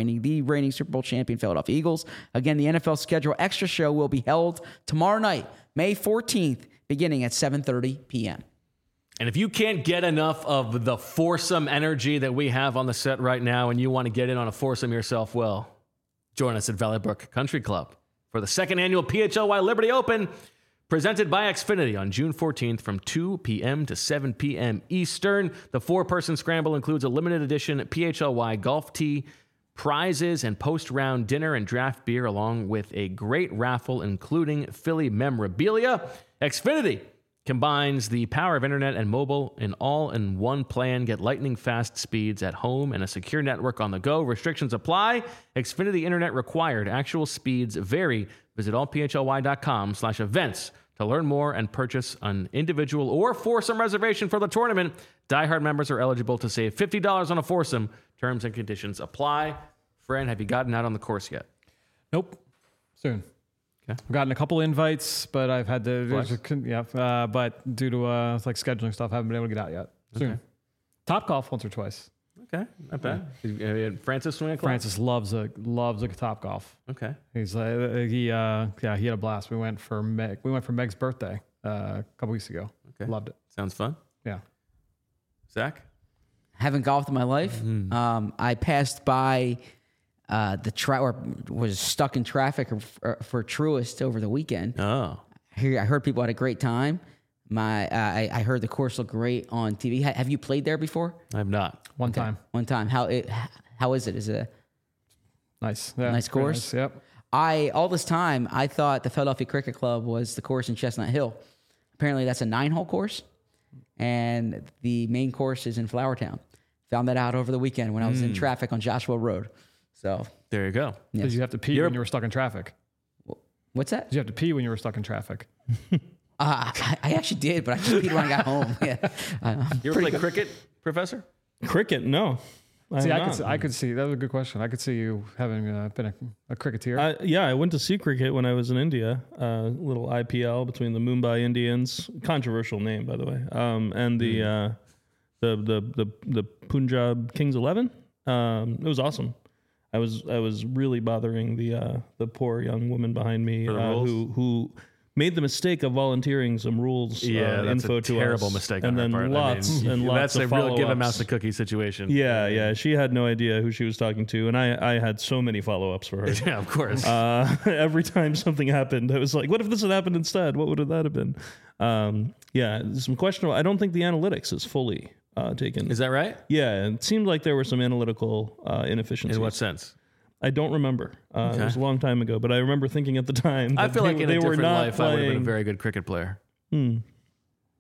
Bowl champion Philadelphia Eagles. Again, the NFL schedule extra show will be held tomorrow night, May 14th, beginning at 7:30 p.m. And if you can't get enough of the foursome energy that we have on the set right now and you want to get in on a foursome yourself, well, join us at Valley Brook Country Club for the second annual PHLY Liberty Open, presented by Xfinity on June 14th from 2 p.m. to 7 p.m. Eastern. The 4-person scramble includes a limited edition PHLY golf tee, prizes, and post-round dinner and draft beer, along with a great raffle including Philly memorabilia. Xfinity combines the power of internet and mobile in all-in-one plan. Get lightning-fast speeds at home and a secure network on the go. Restrictions apply. Xfinity internet required. Actual speeds vary. Visit allphly.com/events to learn more and purchase an individual or foursome reservation for the tournament. Diehard members are eligible to save $50 on a foursome. Terms and conditions apply. Fran, have you gotten out on the course yet? Nope. Soon. Okay. I've gotten a couple invites, but I've had to, Flex. but due to like scheduling stuff, I haven't been able to get out yet. Soon. Okay. Top golf once or twice. Okay, not bad. Francis swing a club? Francis loves a Top Golf. Okay. He's he had a blast. We went for Meg's birthday a couple weeks ago. Okay. Loved it. Sounds fun. Yeah. Zach? Haven't golfed in my life. I passed by the track, or was stuck in traffic for Truist over the weekend. Oh. I heard people had a great time. I heard the course looked great on TV. Have you played there before? I have not. One time. One time. How is it? Is it Nice. a nice course? Nice. Yep. All this time I thought the Philadelphia Cricket Club was the course in Chestnut Hill. Apparently that's a 9-hole course, and the main course is in Flowertown. Found that out over the weekend when I was in traffic on Joshua Road. So There you go. yes. Did you have to pee when you were stuck in traffic? What's that? Did you have to pee when you were stuck in traffic? I actually did, but I just peed when I got home. Yeah. You ever play cricket, Professor? Cricket? No. See, have I could see that was a good question. I could see you having been a cricketer. Yeah, I went to see cricket when I was in India. Little IPL between the Mumbai Indians, controversial name by the way, and the Punjab Kings 11. It was awesome. I was really bothering the poor young woman behind me who made the mistake of volunteering some rules info to us. Terrible mistake on and her then part. lots of that's a real give a follow-ups. mouse a cookie situation. Yeah. She had no idea who she was talking to, and I had so many follow-ups for her. Yeah, of course. Every time something happened, I was like, what if this had happened instead? What would that have been? Some questionable. I don't think the analytics is fully taken. Is that right? Yeah, it seemed like there were some analytical inefficiencies. In what sense? I don't remember. It was a long time ago, but I remember thinking at the time that I feel like in a they were different not life, I would have been a playing. very good cricket player.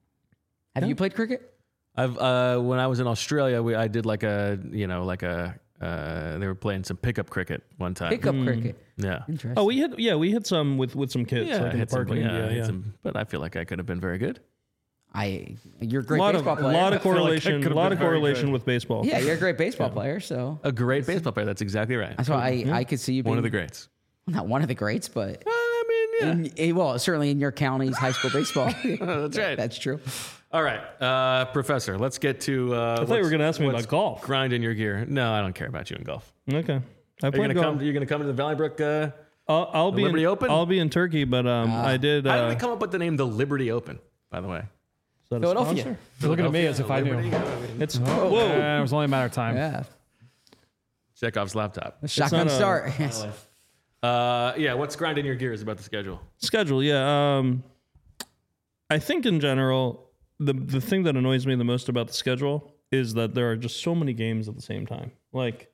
Have you played cricket? I've when I was in Australia, I did like a They were playing some pickup cricket one time. Pickup cricket. Yeah. Interesting. Oh, we hit some with some kids Yeah, like in the hit some- parking. yeah, Yeah, hit yeah. some- but I feel like I could have been very good. You're a great lot baseball player. of correlation, could've lot been of very correlation good. with baseball. Yeah, you're a great baseball player. So A great baseball player. That's exactly right. that's why I could see you being One of the greats. not one of the greats, but I mean, yeah. well, certainly in your county's high school baseball. That's right. That's true. All right, Professor, let's get to. I thought you were going to ask me what's about golf. grinding your gear. No, I don't care about you in golf. Okay. I Are played golf. you're gonna come to the Valley Brook? I'll be Liberty in, Open? I'll be in Turkey, but I did. How did they come up with the name the Liberty Open? By the way, is that a Philadelphia. sponsor? You're looking at me as if I knew. Liberty? It's It was only a matter of time. Yeah. Chekhov's laptop. Shotgun not a- start. Yes. Yeah, what's grinding your gears about the schedule? schedule. Yeah. I think in general, the thing that annoys me the most about the schedule is that there are just so many games at the same time. Like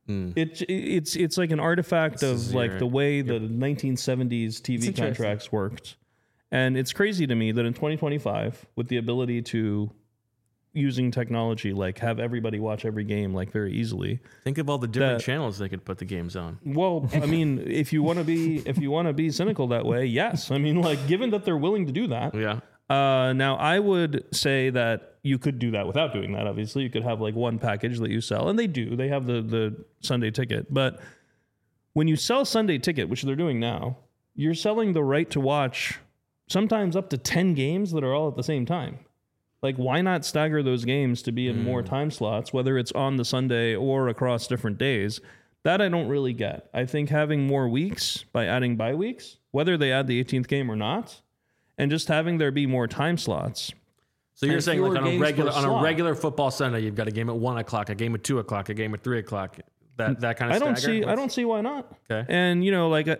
it's like an artifact of like the way the 1970s TV interesting. contracts worked. And it's crazy to me that in 2025, with the ability to using technology, like have everybody watch every game like very easily. Think of all the different That- channels they could put the games on. Well, I mean, if you want to be cynical that way, yes. I mean, like given that they're willing to do that. Yeah. Now I would say that you could do that without doing that. Obviously, you could have like one package that you sell, and they do. They have the Sunday ticket, but when you sell Sunday ticket, which they're doing now, you're selling the right to watch sometimes up to 10 games that are all at the same time. Like, why not stagger those games to be in more time slots, whether it's on the Sunday or across different days? That I don't really get. I think having more weeks by adding bye weeks, whether they add the 18th game or not, and just having there be more time slots. So you're And saying like fewer on a games regular per on a slot. regular football Sunday, you've got a game at 1 o'clock, a game at 2 o'clock, a game at 3 o'clock. That kind of. I don't see why not. Okay. And you know, like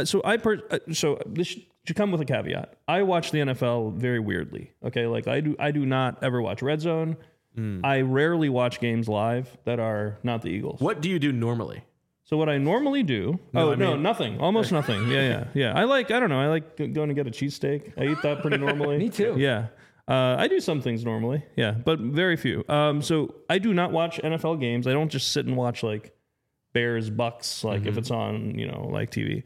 so this should come with a caveat. I watch the NFL very weirdly. Okay, like I do not ever watch Red Zone. I rarely watch games live that are not the Eagles. What do you do normally? So what I normally do? Nothing. Almost nothing. Yeah. I like going to get a cheesesteak. I eat that pretty normally. Me too. Yeah. I do some things normally. Yeah, but very few. So I do not watch NFL games. I don't just sit and watch like Bears Bucks like if it's on, like TV.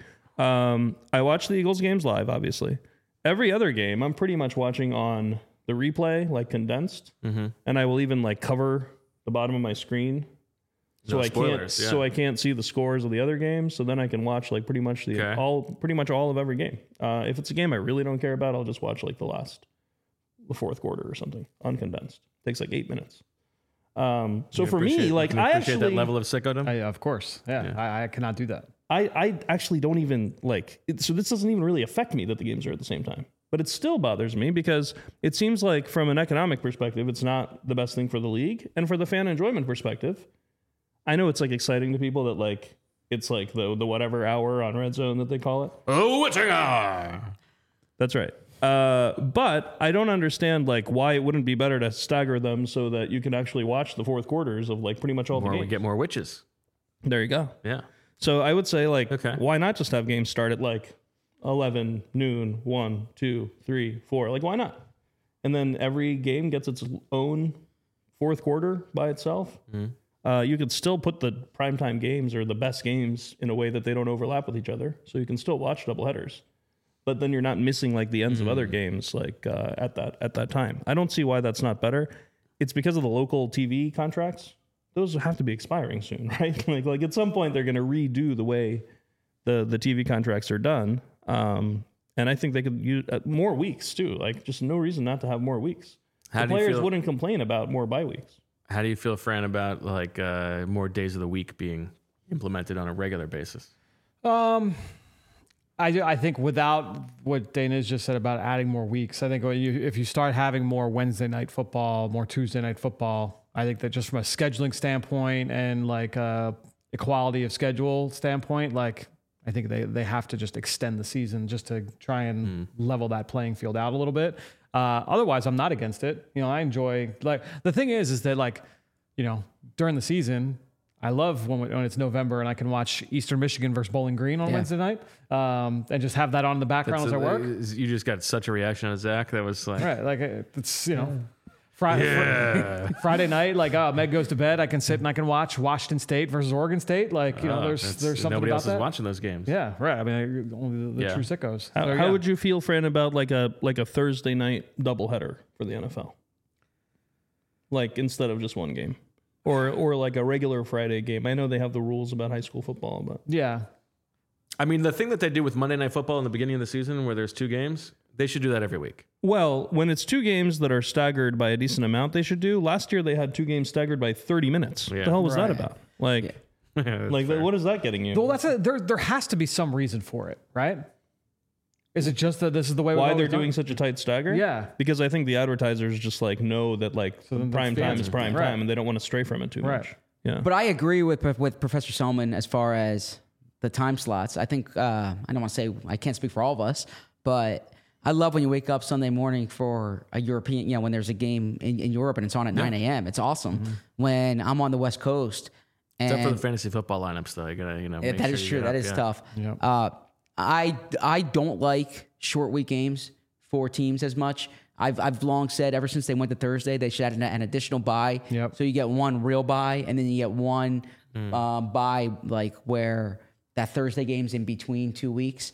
I watch the Eagles games live, obviously. Every other game I'm pretty much watching on the replay, like condensed. And I will even like cover the bottom of my screen. So No I spoilers, can't yeah. I can't see the scores of the other games. So then I can watch like pretty much all of every game. If it's a game I really don't care about, I'll just watch like the fourth quarter or something uncondensed. Takes like 8 minutes. So for me, like Can I appreciate actually that level of sickodom. Of course. Yeah. I cannot do that. I actually don't even like it, so this doesn't even really affect me that the games are at the same time. But it still bothers me because it seems like from an economic perspective, it's not the best thing for the league. And for the fan enjoyment perspective, I know it's like exciting to people that like it's like the whatever hour on Red Zone that they call it. Oh, witching hour. That's right. But I don't understand like why it wouldn't be better to stagger them so that you can actually watch the fourth quarters of like pretty much all the Or games. we get more witches. There you go. Yeah. So I would say like, Okay. why not just have games start at like 11, noon, 1, 2, 3, 4? Like, why not? And then every game gets its own fourth quarter by itself. You could still put the primetime games or the best games in a way that they don't overlap with each other. So you can still watch doubleheaders. But then you're not missing like the ends of other games like at that time. I don't see why that's not better. It's because of the local TV contracts. Those have to be expiring soon, right? like at some point they're going to redo the way the TV contracts are done. And I think they could use more weeks too. Like just no reason not to have more weeks. How The do you players feel- wouldn't complain about more bye weeks. How do you feel, Fran, about like more days of the week being implemented on a regular basis? I think without what Dana's just said about adding more weeks, I think if you start having more Wednesday night football, more Tuesday night football, I think that just from a scheduling standpoint and like equality of schedule standpoint, like I think they have to just extend the season just to try and level that playing field out a little bit. Otherwise, I'm not against it. I enjoy like the thing is that like during the season. I love when it's November and I can watch Eastern Michigan versus Bowling Green on Wednesday night and just have that on in the background as I work. You just got such a reaction on Zach that was like, Right, like it's Friday night, like, Meg goes to bed. I can sit and I can watch Washington State versus Oregon State. Like, there's something nobody about else that. is watching those games. Yeah, right. I mean, only the true sickos. How would you feel, Fran, about like a Thursday night doubleheader for the NFL? Like instead of just one game, or like a regular Friday game. I know they have the rules about high school football, but Yeah. I mean, the thing that they do with Monday Night Football in the beginning of the season, where there's 2 games, they should do that every week. well, when it's 2 games that are staggered by a decent amount, they should do. Last year they had 2 games staggered by 30 minutes. What the hell was that about? Like, what is that getting you? Well, there has to be some reason for it, right? Is it just that this is the way Why we've they're always done doing it? such a tight stagger? Yeah. Because I think the advertisers just like know that like then the prime time fans is are- prime right. time, and they don't want to stray from it too Right. much. Yeah. But I agree with Professor Selman as far as the time slots. I think I don't want to say I can't speak for all of us, but I love when you wake up Sunday morning for a European, when there's a game in Europe and it's on at 9 a.m. It's awesome. When I'm on the West Coast, and Except for the fantasy football lineups, though. You gotta, make that sure is you true. get That up, is tough. Yeah. I don't like short week games for teams as much. I've long said ever since they went to Thursday, they should add an additional bye. Yep. So you get one real bye, and then you get one bye, like where that Thursday game's in between 2 weeks.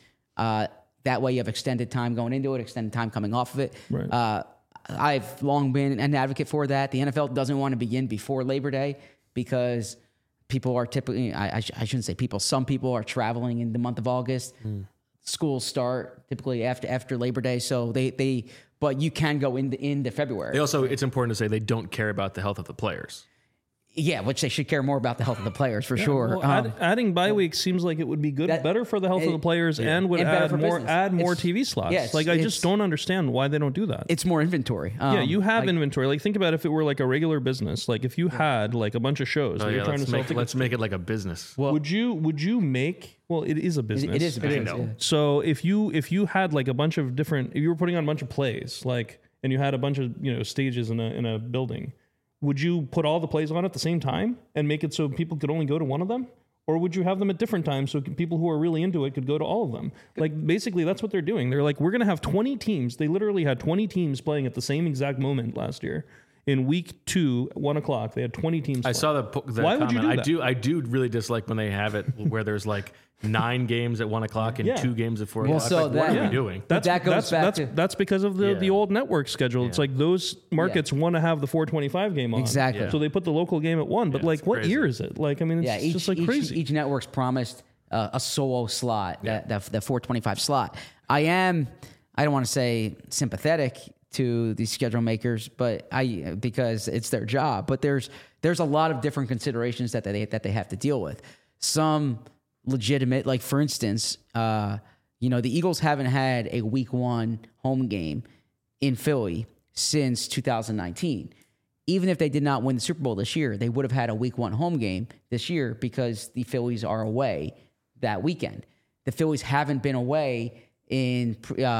That way you have extended time going into it, extended time coming off of it. Right. I've long been an advocate for that. The NFL doesn't want to begin before Labor Day because people are typically, I shouldn't say people, some people are traveling in the month of August. Schools start typically after Labor Day. So but you can go into February. They also, it's important to say they don't care about the health of the players. Yeah, which they should care more about the health of the players for sure. Well, adding bye weeks seems like it would be better for the health of the players and would And better add for more business. TV slots. Yes, like I it's- just don't understand why they don't do that. It's more inventory. Yeah, you have inventory. Like think about if it were like a regular business. Like if you had like a bunch of shows that you're trying to sell tickets. Let's make it like a business. Would you make? Well, it is a business. It is a business. know. Yeah. So if you had like a bunch of different, if you were putting on a bunch of plays, like, and you had a bunch of stages in a building, would you put all the plays on at the same time and make it so people could only go to one of them? Or would you have them at different times so people who are really into it could go to all of them? Like, basically, that's what they're doing. They're like, we're going to have 20 teams. They literally had 20 teams playing at the same exact moment last year. In week 2, 1 o'clock, they had 20 teams I playing. saw the Why comment. would you do that? I do really dislike when they have it where there's like 9 games at 1 o'clock and Yeah. 2 games at 4 Well, o'clock. so Like, what that- are we doing? But that goes back to- that's because of the old network schedule. It's like those markets want to have the 4:25 game on. Exactly. Yeah. So they put the local game at 1. But Yeah, like, it's what crazy. year is it? Like, I mean, it's Yeah, just like crazy. Each network's promised a solo slot, that 425 slot. I don't want to say sympathetic to these schedule makers, but because it's their job. But there's a lot of different considerations that they have to deal with. Some legitimate, like for instance, the Eagles haven't had a week 1 home game in Philly since 2019. Even if they did not win the Super Bowl this year, they would have had a week 1 home game this year because the Phillies are away that weekend. The Phillies haven't been away in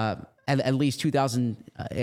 at least 2000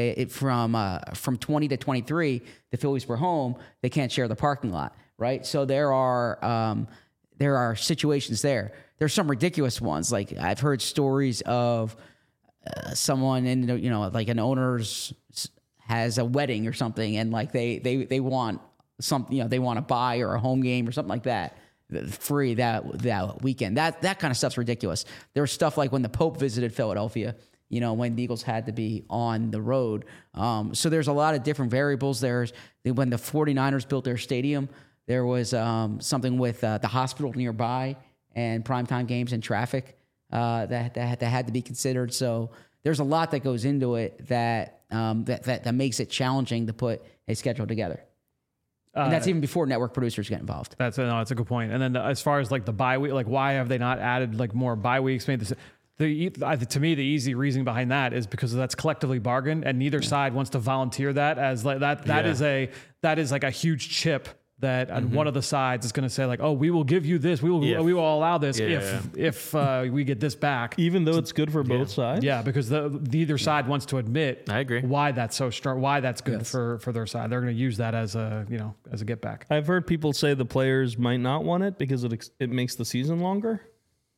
from 20 to 23. The Phillies were home. They can't share the parking lot, right? So there are situations there. There's some ridiculous ones. Like I've heard stories of someone in like an owner's has a wedding or something, and like they want something, they want a buy or a home game or something like that free that weekend. That kind of stuff's ridiculous. There's stuff like when the Pope visited Philadelphia, when the Eagles had to be on the road. So there's a lot of different variables. There's when the 49ers built their stadium, there was something with the hospital nearby and primetime games and traffic that had to be considered. So there's a lot that goes into it that makes it challenging to put a schedule together. And that's even before network producers get involved. That's a good point. And then as far as like the bye week, like why have they not added like more bye weeks? Made this. To me, the easy reasoning behind that is because that's collectively bargained, and neither side wants to volunteer that as like that. That is like a huge chip that one of the sides is going to say like, oh, we will give you this, we will allow this if we get this back, Even though it's good for both sides. Yeah, because neither side wants to admit. I agree. Why that's so strong. Why that's good for their side. They're going to use that as a get back. I've heard people say the players might not want it because it makes the season longer.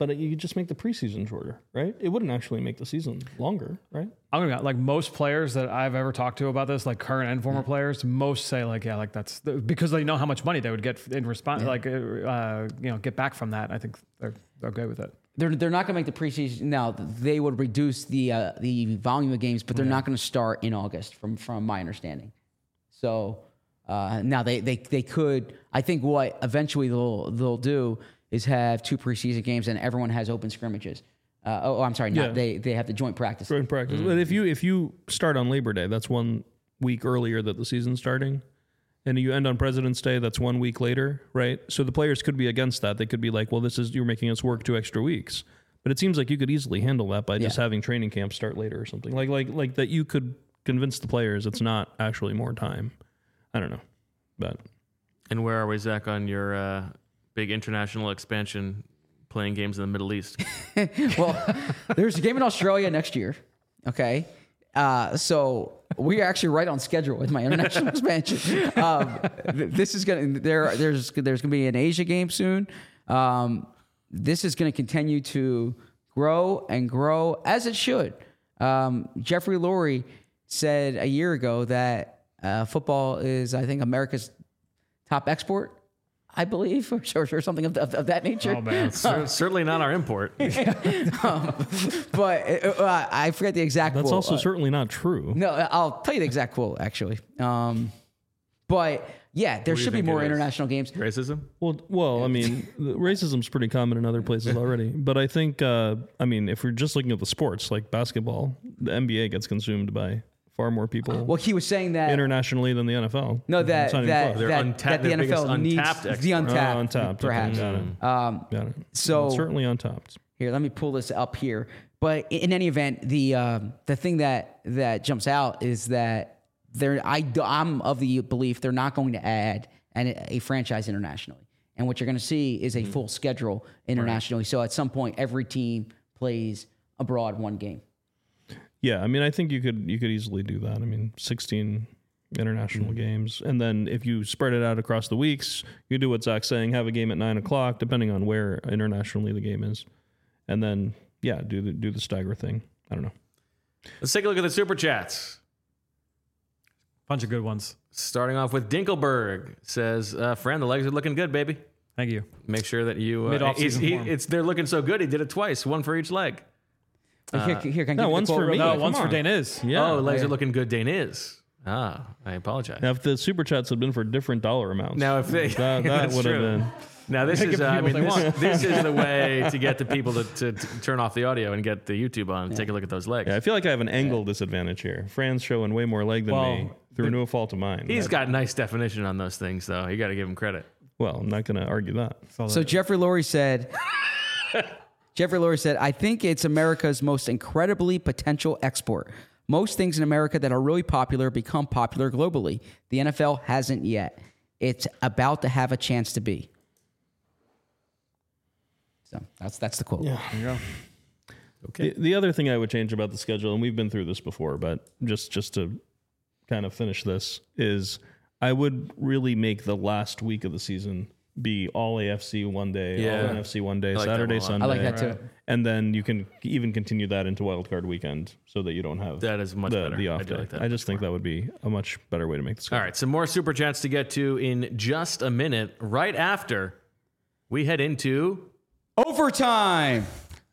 But you could just make the preseason shorter, right? It wouldn't actually make the season longer, right? I'm gonna like most players that I've ever talked to about this, like current and former players, most say like, yeah, like that's because they know how much money they would get in response, like get back from that. I think they're okay with it. They're not going to make the preseason. Now they would reduce the volume of games, but they're not going to start in August, from my understanding. So now they could. I think what eventually they'll do is have 2 preseason games and everyone has open scrimmages. I'm sorry, not they have the joint practice. Joint practice. But if you start on Labor Day, that's 1 week earlier that the season's starting. And you end on President's Day, that's 1 week later, right? So the players could be against that. They could be like, well, you're making us work 2 extra weeks. But it seems like you could easily handle that by just having training camp start later or something. Like that you could convince the players it's not actually more time. I don't know. But And where are we, Zach, on your big international expansion, playing games in the Middle East? Well, there's a game in Australia next year. Okay. So we're actually right on schedule with my international expansion. This is going to, there's going to be an Asia game soon. This is going to continue to grow and grow as it should. Jeffrey Lurie said a year ago that football is, I think, America's top export, I believe, or something of that nature. Oh, man. Certainly not our import. But I forget the exact quote. that's also certainly not true. No, I'll tell you the exact quote, actually. But yeah, there should be more international games. Racism? Well, I mean, racism's pretty common in other places already. But I think, if we're just looking at the sports, like basketball, the NBA gets consumed by far more people Well, he was saying that internationally than the NFL. No, that It's not even close. They're that untapped- the their biggest NFL needs untapped the untapped, untapped. perhaps. Okay, got it. So Certainly untapped. here, let me pull this up here. But in any event, the thing that jumps out is that I'm of the belief they're not going to add a franchise internationally, and what you're going to see is a full schedule internationally. So at some point, every team plays abroad 1 game. Yeah, I mean, I think you could easily do that. I mean, 16 international games, and then if you spread it out across the weeks, you do what Zach's saying: have a game at 9:00, depending on where internationally the game is, and then do the stagger thing. I don't know. Let's take a look at the Super Chats. Bunch of good ones. Starting off with Dinkelberg says, friend, the legs are looking good, baby. Thank you. Make sure that you... Mid-off-season form. they're looking so good, he did it twice, 1 for each leg. Here, can I no, give you one's the quote for real me. quick? No, come one's for on. Dane is. Yeah. Legs are looking good, Dane is. I apologize. Now, if the super chats had been for different dollar amounts, Now, if they... that That's would have true. been. Now, this They is, give I people mean, what they this is the way to get the people to turn off the audio and get the YouTube on and take a look at those legs. Yeah, I feel like I have an angle disadvantage here. Fran's showing way more leg than me through no fault of mine. He's got nice definition on those things, though. You got to give him credit. Well, I'm not going to argue that. So Jeffrey Lurie said, I think it's America's most incredibly potential export. Most things in America that are really popular become popular globally. The NFL hasn't yet. It's about to have a chance to be. So that's the quote. Yeah. There you go. Okay. The other thing I would change about the schedule, and we've been through this before, but just to kind of finish this, is I would really make the last week of the season be all AFC one day, all NFC one day, I like that Saturday, one a lot. Sunday. I like that too. And then you can even continue that into Wild Card weekend so that you don't have That is much better. the I off do day. like that I just think that would be a much better way to make the schedule. All right, some more Super Chats to get to in just a minute, right after we head into... Overtime.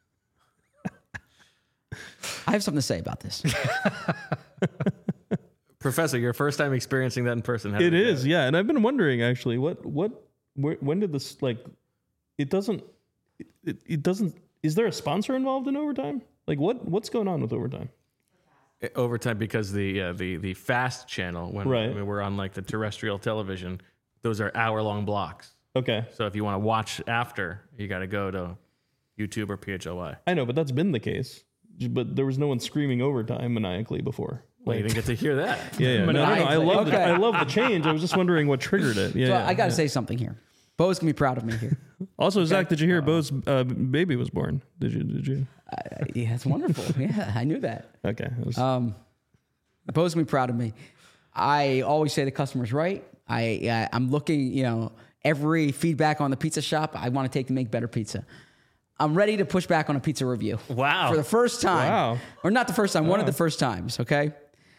I have something to say about this. Professor, your first time experiencing that in person. How did It go? is, yeah. And I've been wondering actually, when did this it doesn't. Is there a sponsor involved in overtime? Like what's going on with overtime? Overtime because the fast channel when Right. we're on like the terrestrial television, those are hour-long blocks. Okay, So if you want to watch after, you got to go to YouTube or PHLY. I know, but that's been the case. But there was no one screaming overtime maniacally before. Well, you didn't get to hear that. Yeah. No, I love Okay. I love the change. I was just wondering what triggered it. Yeah. So yeah, I got to yeah. say something here. Bo's gonna be proud of me here. Also, Zach, did you hear Bo's baby was born? Did you? Yeah, it's wonderful. Yeah, I knew that. Okay. It was- Bo's gonna be proud of me. I always say the customer's right. I'm looking, every feedback on the pizza shop, I want to take to make better pizza. I'm ready to push back on a pizza review. Wow. For the first time. Wow. Or not the first time, one of the first times, okay?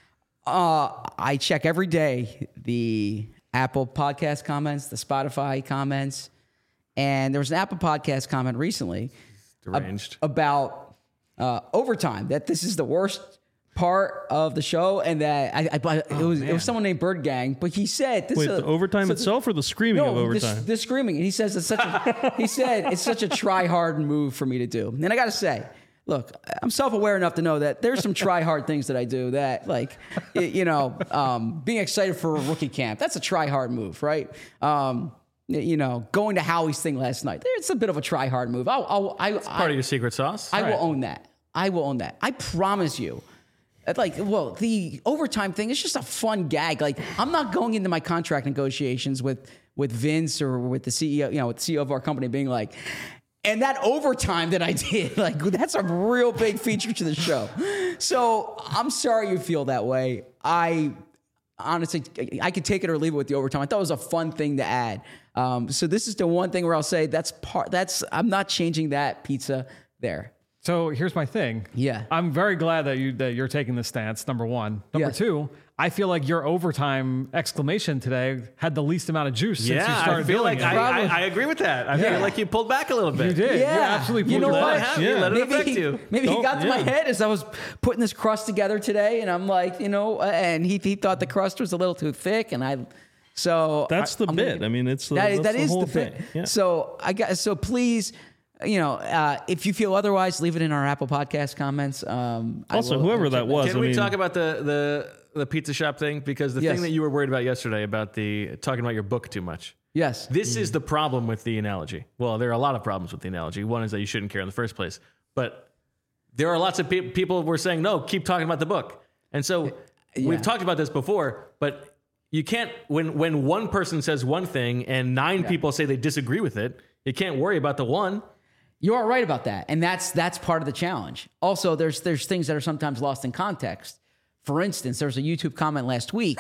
I check every day the Apple Podcast comments, the Spotify comments, and there was an Apple Podcast comment recently Deranged. about overtime, that this is the worst part of the show, and that it was someone named Bird Gang, but he said this Wait, the overtime itself or the screaming of overtime? The screaming. And he says it's such a try hard move for me to do. And I got to say, look, I'm self-aware enough to know that there's some try hard things that I do that, like, being excited for a rookie camp, that's a try hard move, right? Going to Howie's thing last night, it's a bit of a try hard move. Part of your secret sauce. I will own that. I promise you. The overtime thing is just a fun gag. Like, I'm not going into my contract negotiations with Vince or with the CEO, with the CEO of our company being like, and that overtime that I did, like, that's a real big feature to the show. So I'm sorry you feel that way. I honestly, I could take it or leave it with the overtime. I thought it was a fun thing to add. So this is the one thing where I'll say I'm not changing that pizza there. So here's my thing. Yeah. I'm very glad that you're taking this stance, number one. Number Yeah. two, I feel like your overtime exclamation today had the least amount of juice since you Yeah, started I feel doing like it. I agree with that. I feel like you pulled back a little bit. You did. Yeah. You absolutely You pulled know your what? leg. Let it, Yeah. let it affect you. Maybe he got to my Yeah. head as I was putting this crust together today, and I'm like, and he thought the crust was a little too thick, and That's the I'm bit. gonna- I mean, it's that that's is whole the bit. thing. Yeah. So please, if you feel otherwise, leave it in our Apple Podcast comments. Also, whoever that was, Can we talk about the pizza shop thing? Because the Yes. thing that you were worried about yesterday about talking about your book too much. Yes. This is the problem with the analogy. Well, there are a lot of problems with the analogy. One is that you shouldn't care in the first place. But there are lots of people who were saying, no, keep talking about the book. And so we've talked about this before, but you can't, when one person says one thing and 9 people say they disagree with it, you can't worry about the one. You are right about that, and that's part of the challenge. Also, there's things that are sometimes lost in context. For instance, there was a YouTube comment last week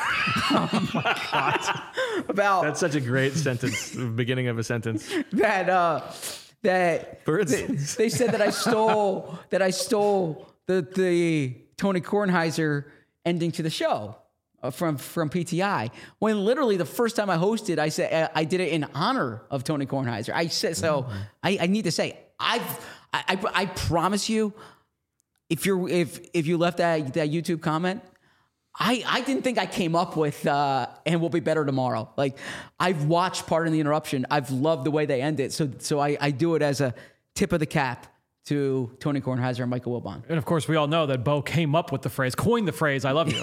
about That's such a great sentence, the beginning of a sentence. that For instance. they said that I stole the Tony Kornheiser ending to the show from PTI. When literally the first time I hosted, I said I did it in honor of Tony Kornheiser. I said so. I need to say I promise you, if you left that YouTube comment, I didn't think I came up with and we'll be better tomorrow. Like, I've watched Pardon the Interruption. I've loved the way they end it. So I do it as a tip of the cap to Tony Kornheiser and Michael Wilbon. And of course, we all know that Bo came up with the phrase, coined the phrase, I love you.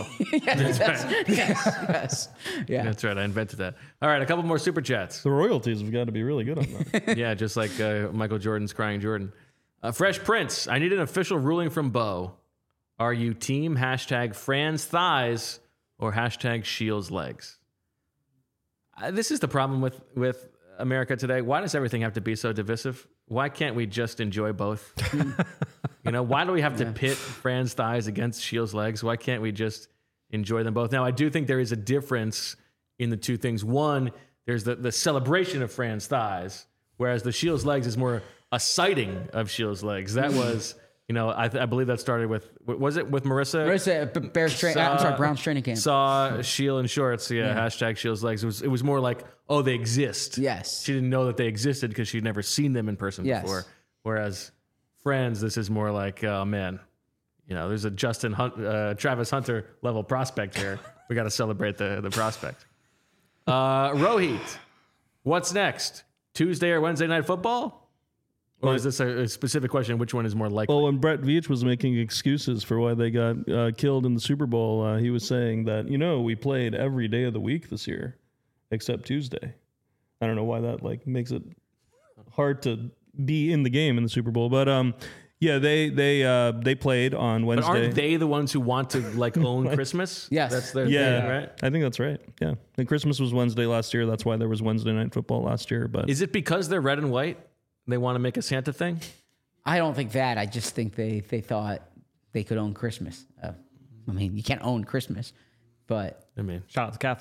Yes. Yeah. That's right. I invented that. All right. A couple more super chats. The royalties have got to be really good on that. Yeah, just like Michael Jordan's Crying Jordan. Fresh Prince, I need an official ruling from Bo. Are you team #Fran's thighs or #Shields legs? This is the problem with America today. Why does everything have to be so divisive? Why can't we just enjoy both? Why do we have to pit Fran's thighs against Shields legs? Why can't we just enjoy them both? Now, I do think there is a difference in the two things. One, there's the celebration of Fran's thighs, whereas the Shields legs is more a sighting of Shields legs. That was, I believe that started with Marissa? Marissa, Brown's training camp. Saw Shield in shorts. Yeah, #Shields legs. It was more like, oh, they exist. Yes. She didn't know that they existed because she'd never seen them in person Yes. before. Whereas Friends, this is more like, oh man, there's a Travis Hunter level prospect here. We got to celebrate the prospect. Rohit, what's next? Tuesday or Wednesday night football? Or is this a specific question? Which one is more likely? Well, when Brett Veach was making excuses for why they got killed in the Super Bowl, he was saying that, we played every day of the week this year except Tuesday. I don't know why that makes it hard to be in the game in the Super Bowl, but they played on Wednesday. But aren't they the ones who want to own Christmas? Yes. That's their Yeah, thing, right? I think that's right. Yeah, and Christmas was Wednesday last year. That's why there was Wednesday night football last year. But Is it because they're red and white? They want to make a Santa thing? I don't think that. I just think they thought they could own Christmas. You can't own Christmas, but Shout out to Catholics.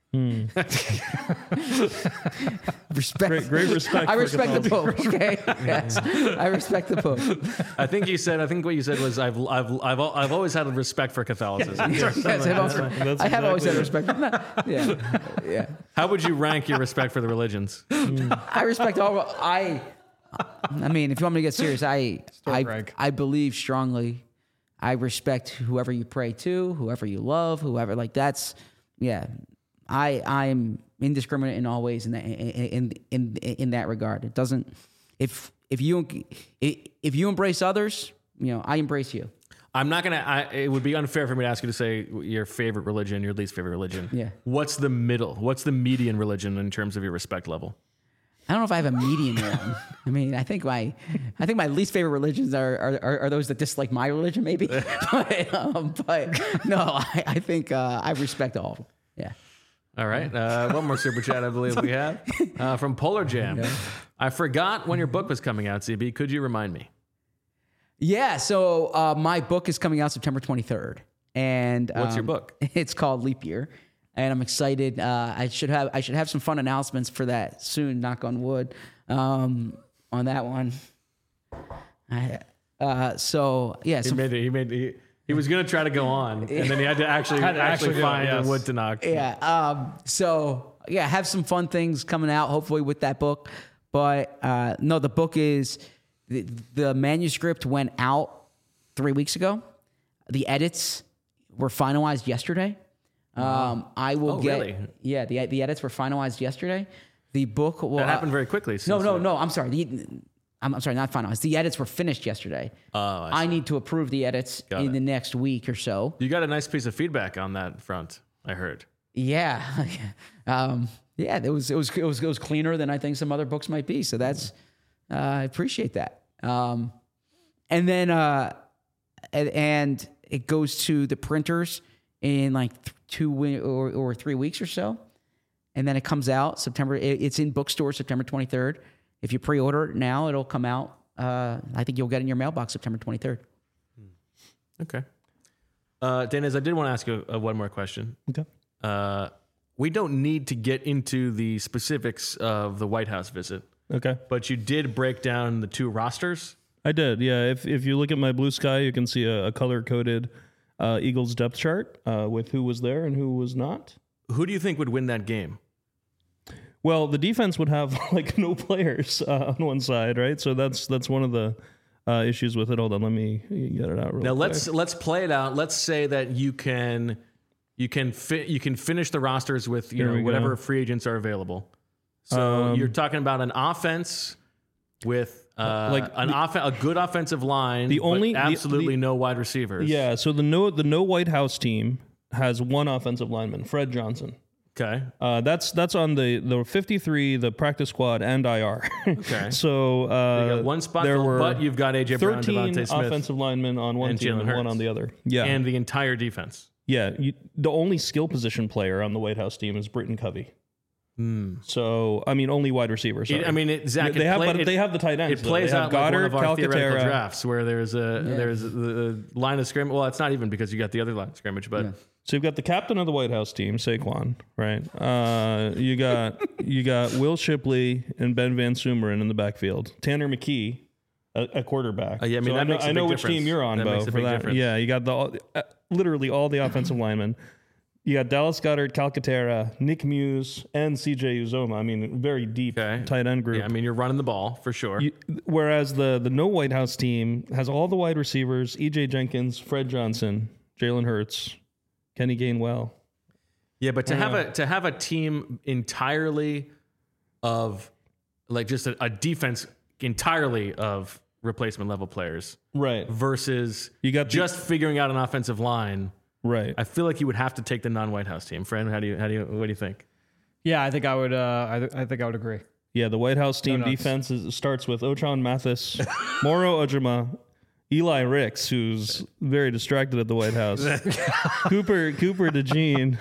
Respect. Great respect. I for respect the Catholicism. Pope. Okay. Yes. I respect the Pope. I think what you said was I've always had a respect for Catholicism. Yes, I have always had respect. Yeah. How would you rank your respect for the religions? I respect all. I mean, if you want me to get serious, rank. I believe strongly. I respect whoever you pray to, whoever you love, whoever. Like that's, yeah. I'm indiscriminate in all ways in that regard. It doesn't. If you embrace others, I embrace you. I'm not gonna. It would be unfair for me to ask you to say your favorite religion, your least favorite religion. Yeah. What's the middle? What's the median religion in terms of your respect level? I don't know if I have a median one. I mean, I think my least favorite religions are those that dislike my religion, maybe. but no, I think I respect all of them. Yeah. All right. One more super chat, I believe we have from Polar Jam. Yeah. I forgot when your book was coming out, CB. Could you remind me? Yeah. So my book is coming out September 23rd, and what's your book? It's called Leap Year. And I'm excited. I should have some fun announcements for that soon. Knock on wood, on that one. He was gonna try to go on, and then he had to actually find a wood to knock. Yeah. Have some fun things coming out. Hopefully with that book. But no, the book is the manuscript went out 3 weeks ago. The edits were finalized yesterday. I will really? Yeah, the edits were finalized yesterday. The book will, that happened very quickly. No. I'm sorry. I'm sorry, not finalized. The edits were finished yesterday. I need to approve the edits in the next week or so. You got a nice piece of feedback on that front, I heard. Yeah, it was cleaner than I think some other books might be. So that's I appreciate that. And then and it goes to the printers in like 2 or 3 weeks or so. And then it comes out September. It's in bookstores September 23rd. If you pre-order it now, it'll come out. I think you'll get it in your mailbox September 23rd. Okay. Dennis, I did want to ask you one more question. Okay. We don't need to get into the specifics of the White House visit. Okay. But you did break down the two rosters. I did, yeah. If you look at my blue sky, you can see a color-coded Eagles depth chart with who was there and who was not. Who do you think would win that game? Well, the defense would have like no players on one side, right? So that's one of the issues with it. Hold on, let me get it out real quick. Let's play it out. Let's say that you can finish the rosters with whatever free agents are available. So you're talking about an offense with a good offensive line, absolutely no wide receivers. Yeah. So the no White House team has one offensive lineman, Fred Johnson. Okay. That's on the 53, the practice squad, and IR. Okay. So you got one spot, but you've got AJ Brown, 13 Devontae Smith, offensive linemen on one team and one on the other. Yeah. And the entire defense. Yeah. The only skill position player on the White House team is Britton Covey. So, I mean, only wide receivers. They have the tight ends. It plays out Goddard, like one of our theoretical Calcaterra. drafts where there's a line of scrimmage. Well, it's not even because you got the other line of scrimmage, but. Yeah. So you've got the captain of the White House team, Saquon, right? You got Will Shipley and Ben Van Sumeren in the backfield. Tanner McKee, a quarterback. Yeah, I mean, I know which team you're on, that Bo. Makes a big difference. Yeah, you got literally all the offensive linemen. You got Dallas Goedert, Calcaterra, Nick Muse, and CJ Uzoma. I mean, very deep tight end group. Yeah, I mean, you're running the ball for sure. Whereas the no White House team has all the wide receivers: EJ Jenkins, Fred Johnson, Jalen Hurts, Kenny Gainwell. Yeah, but to have a team entirely of like just a defense entirely of replacement level players, right? Versus you got just figuring out an offensive line. Right. I feel like you would have to take the non-White House team. Fran, what do you think? Yeah, I think I would. I think I would agree. Yeah, the White House team defense starts with Ochon Mathis, Moro Ojima, Eli Ricks, who's very distracted at the White House, Cooper DeJean.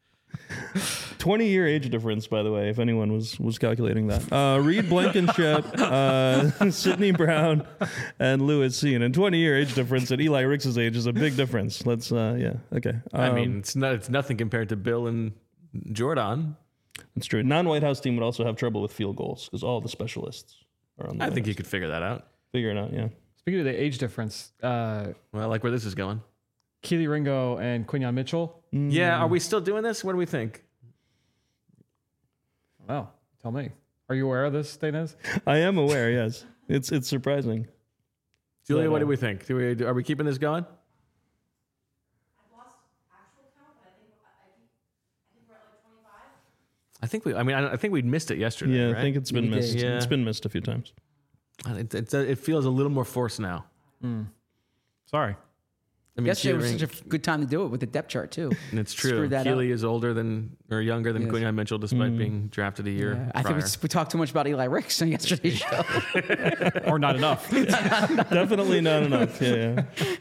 20-year age difference, by the way, if anyone was calculating that. Reed Blankenship, Sidney Brown, and Lewis Cine. And 20-year age difference at Eli Ricks' age is a big difference. Let's, okay. I mean, it's nothing compared to Bill and Jordan. It's true. Non-White House team would also have trouble with field goals because all the specialists are on the I White think House you could figure that out. figure it out. Yeah. Speaking of the age difference, Well, I like where this is going. Keely Ringo and Quinyon Mitchell. Yeah, are we still doing this? What do we think? Well, tell me. Are you aware of this, Dainez? I am aware. Yes, it's surprising. Julia, But, what do we think? Are we keeping this going? I've lost actual count, but I think we're at like 25. I think I think we missed it yesterday. Yeah, right? I think it's been We did. missed. Yeah. It's been missed a few times. It feels a little more forced now. Sorry. I mean, Yesterday was Keely such a good time to do it with the depth chart too. and it's true. screwed that Keely is older than or younger than Yes. Quinyon Mitchell, despite being drafted a year I prior. think we talked too much about Eli Ricks on yesterday's show. Or not enough. Definitely not enough. Yeah.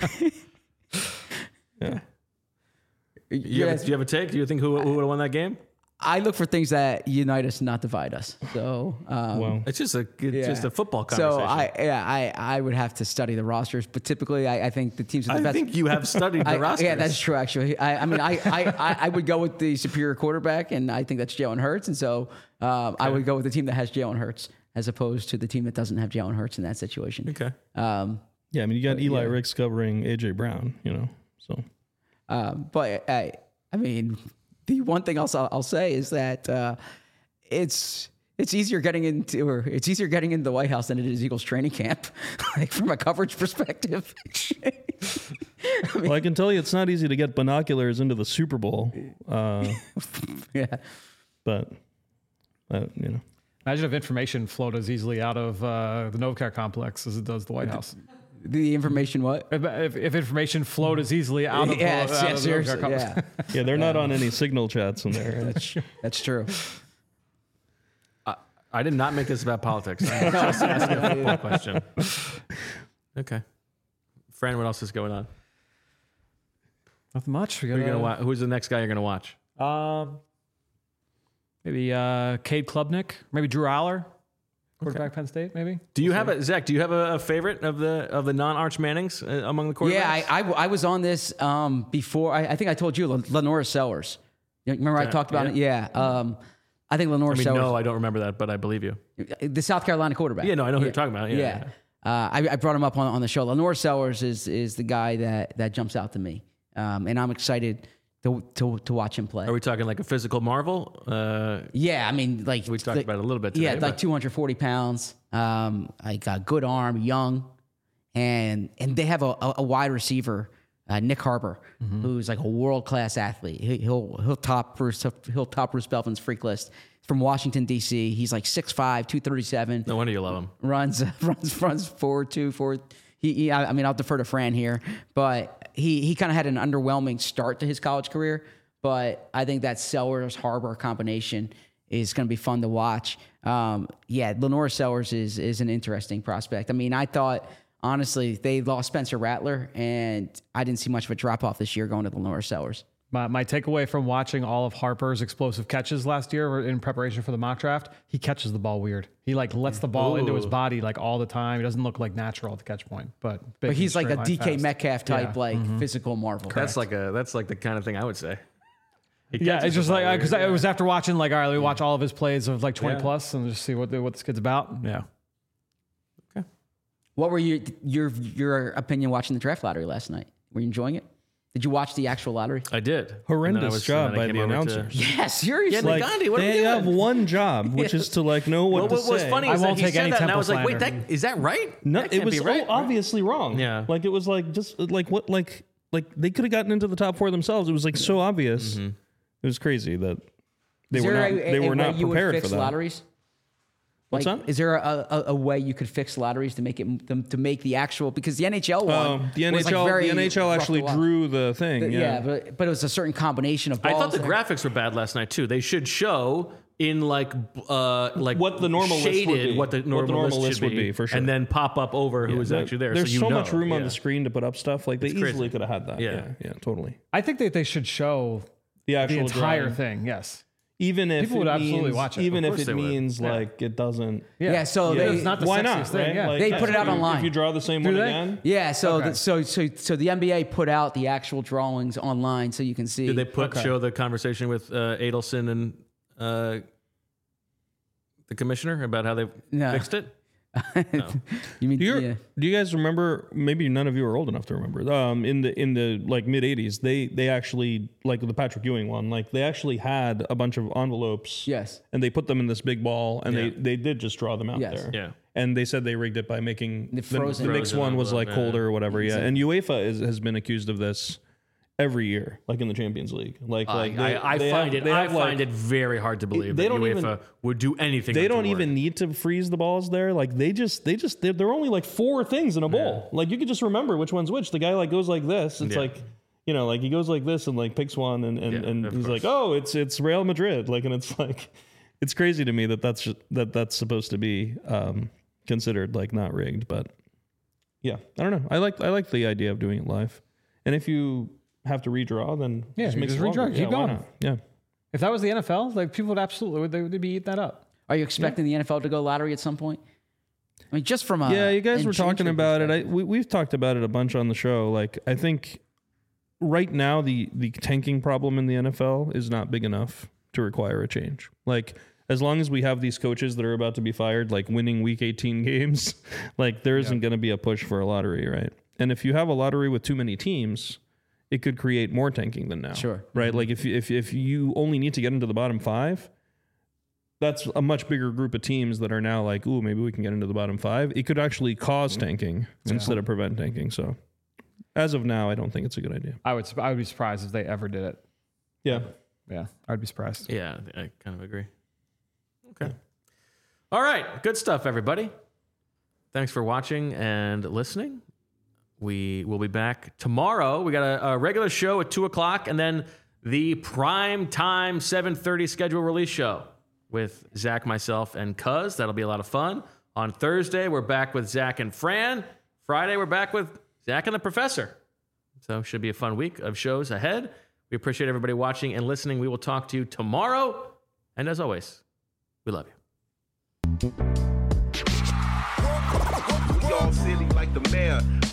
Do you have a take? Do you think who would have won that game? I look for things that unite us, not divide us. So, Well, It's just a football so conversation. I would have to study the rosters, but typically I think the teams with the I best. think you have studied the rosters. Yeah, that's true. Actually, I would go with the superior quarterback, and I think that's Jalen Hurts. And so I would go with the team that has Jalen Hurts as opposed to the team that doesn't have Jalen Hurts in that situation. Okay. yeah. I mean, you got Eli Ricks covering AJ Brown. So But I mean, the one thing I'll say is that it's easier getting into the White House than it is Eagles training camp, like from a coverage perspective. well, I can tell you, it's not easy to get binoculars into the Super Bowl. Yeah. But Imagine if information flowed as easily out of the Novacare complex as it does the White House. The information, what? If information flowed as easily out of, Yes, out of the seriously, Novacare complex. yeah. yeah, they're not on any signal chats in there. That's true. I did not make this about politics. I'm just asking a football question. Okay. Fran, what else is going on? Nothing much. We Who are you got gonna watch? Who's the next guy you're going to watch? maybe Cade Klubnik, maybe Drew Aller, quarterback Penn State, maybe. Do you have Zach? Do you have a favorite of the non-Arch Mannings among the quarterbacks? Yeah, I was on this before. I think I told you Lenora Sellers. Remember I talked about it? Yeah. I think Lenora Sellers. No, I don't remember that, but I believe you. The South Carolina quarterback. Yeah, no, I know who you're talking about. Yeah. I brought him up on the show. Lenora Sellers is the guy that jumps out to me, and I'm excited to watch him play. Are we talking like a physical marvel? Yeah, I mean, like We talked about it a little bit today. Yeah, like 240 pounds. I got good arm, young, and they have a wide receiver, Nick Harper, who's like a world class athlete. He'll top Bruce Belvin's freak list. From Washington D.C. He's like 6'5", 237. No wonder you love him. Runs 4.2. I mean, I'll defer to Fran here, but he kind of had an underwhelming start to his college career. But I think that Sellers Harbor combination is going to be fun to watch. Lenora Sellers is an interesting prospect. I mean, I thought honestly they lost Spencer Rattler, and I didn't see much of a drop off this year going to Lenora Sellers. My takeaway from watching all of Harper's explosive catches last year in preparation for the mock draft, he catches the ball weird. He like lets the ball into his body like all the time. He doesn't look like natural at the catch point, but He's like a DK fast. Metcalf type, Yeah. physical marvel. That's like the kind of thing I would say. Yeah, it's just like because it was after watching like all right, let me watch all of his plays of like 20 Yeah. plus and just see what this kid's about. Yeah. What were your opinion watching the draft lottery last night? Were you enjoying it? Did you watch the actual lottery? I did. Horrendous job by the announcers. Yeah, seriously. Yeah, Gandhi, what are we They have doing? one job, which is to like know what to What was say. funny I is that won't he take said any that, and I temple was like, wait, slander. is that right? No, That it can't was be right. obviously wrong. Yeah. Like it was like just like what like they could have gotten into the top four themselves. It was like so obvious. It was crazy that they were not you would prepared fix for that. lotteries? What's Like, that? Is there a way you could fix lotteries to make it to make the actual, because the NHL one The was, like, NHL very the NHL rough actually to watch. drew the thing. Yeah, but it was a certain combination of I balls. thought the graphics were bad last night too. They should show in like What the normal list would shaded be. what the normal list should be, for sure. and then pop up over who was actually there. There's so you so know. much room on Yeah. the screen to put up stuff. Like they crazy. easily could have had that. Yeah. Yeah, totally. I think that they should show The actual the entire drawing. thing. Yes. Even if People would absolutely watch it. Even Of if course it they would. means Yeah. like it doesn't. Yeah, so Yeah, they it's not the Why sexiest not? thing. Right? Yeah. Like, They that's put it out what online. If you draw the same Do one they? again, yeah, so Okay. so the NBA put out the actual drawings online so you can see. Did they show the conversation with Adelson and the commissioner about how they No. fixed it? You mean Do you guys remember? Maybe none of you are old enough to remember. In the like mid '80s, they actually, like the Patrick Ewing one, like they actually had a bunch of envelopes. Yes. And they put them in this big ball, and Yeah. they did just draw them out Yes. there. Yeah. And they said they rigged it by making The frozen. the mixed Frozen one was like envelope, yeah. colder or whatever. Yeah. And UEFA has been accused of this every year, like in the Champions League. Like I they find have, it very hard to believe they that don't UEFA even- would do anything. They like don't to work. even need to freeze the balls there. Like they're only like 4 things in a bowl. Like you could just remember which one's which. The guy like goes like this. It's Yeah. like, like he goes like this and like picks one and of he's course. like, oh, it's Real Madrid. Like, and it's like, it's crazy to me that's supposed to be considered like not rigged. But yeah, I don't know. I like the idea of doing it live. And if you have to redraw, then Yeah, just you make just it longer. redraw, keep Yeah, why going. not? Yeah. If that was the NFL, like people would absolutely they'd be eating that up. Are you expecting the NFL to go lottery at some point? I mean, just from a Yeah, you guys were intrigue talking about it. perspective. We've talked about it a bunch on the show. Like, I think right now the tanking problem in the NFL is not big enough to require a change. Like, as long as we have these coaches that are about to be fired, like winning Week 18 games, like there isn't going to be a push for a lottery, right? And if you have a lottery with too many teams, it could create more tanking than now. Sure. Right? Like if you only need to get into the bottom 5, that's a much bigger group of teams that are now like, ooh, maybe we can get into the bottom 5. It could actually cause tanking instead of prevent tanking. So as of now, I don't think it's a good idea. I would be surprised if they ever did it. Yeah. Yeah, I'd be surprised. Yeah, I kind of agree. Okay. All right. Good stuff, everybody. Thanks for watching and listening. We will be back tomorrow. We got a regular show at 2 o'clock and then the prime time 7:30 schedule release show with Zach, myself, and Cuz. That'll be a lot of fun. On Thursday, we're back with Zach and Fran. Friday, we're back with Zach and the Professor. So should be a fun week of shows ahead. We appreciate everybody watching and listening. We will talk to you tomorrow. And as always, we love you. We all silly like the mayor.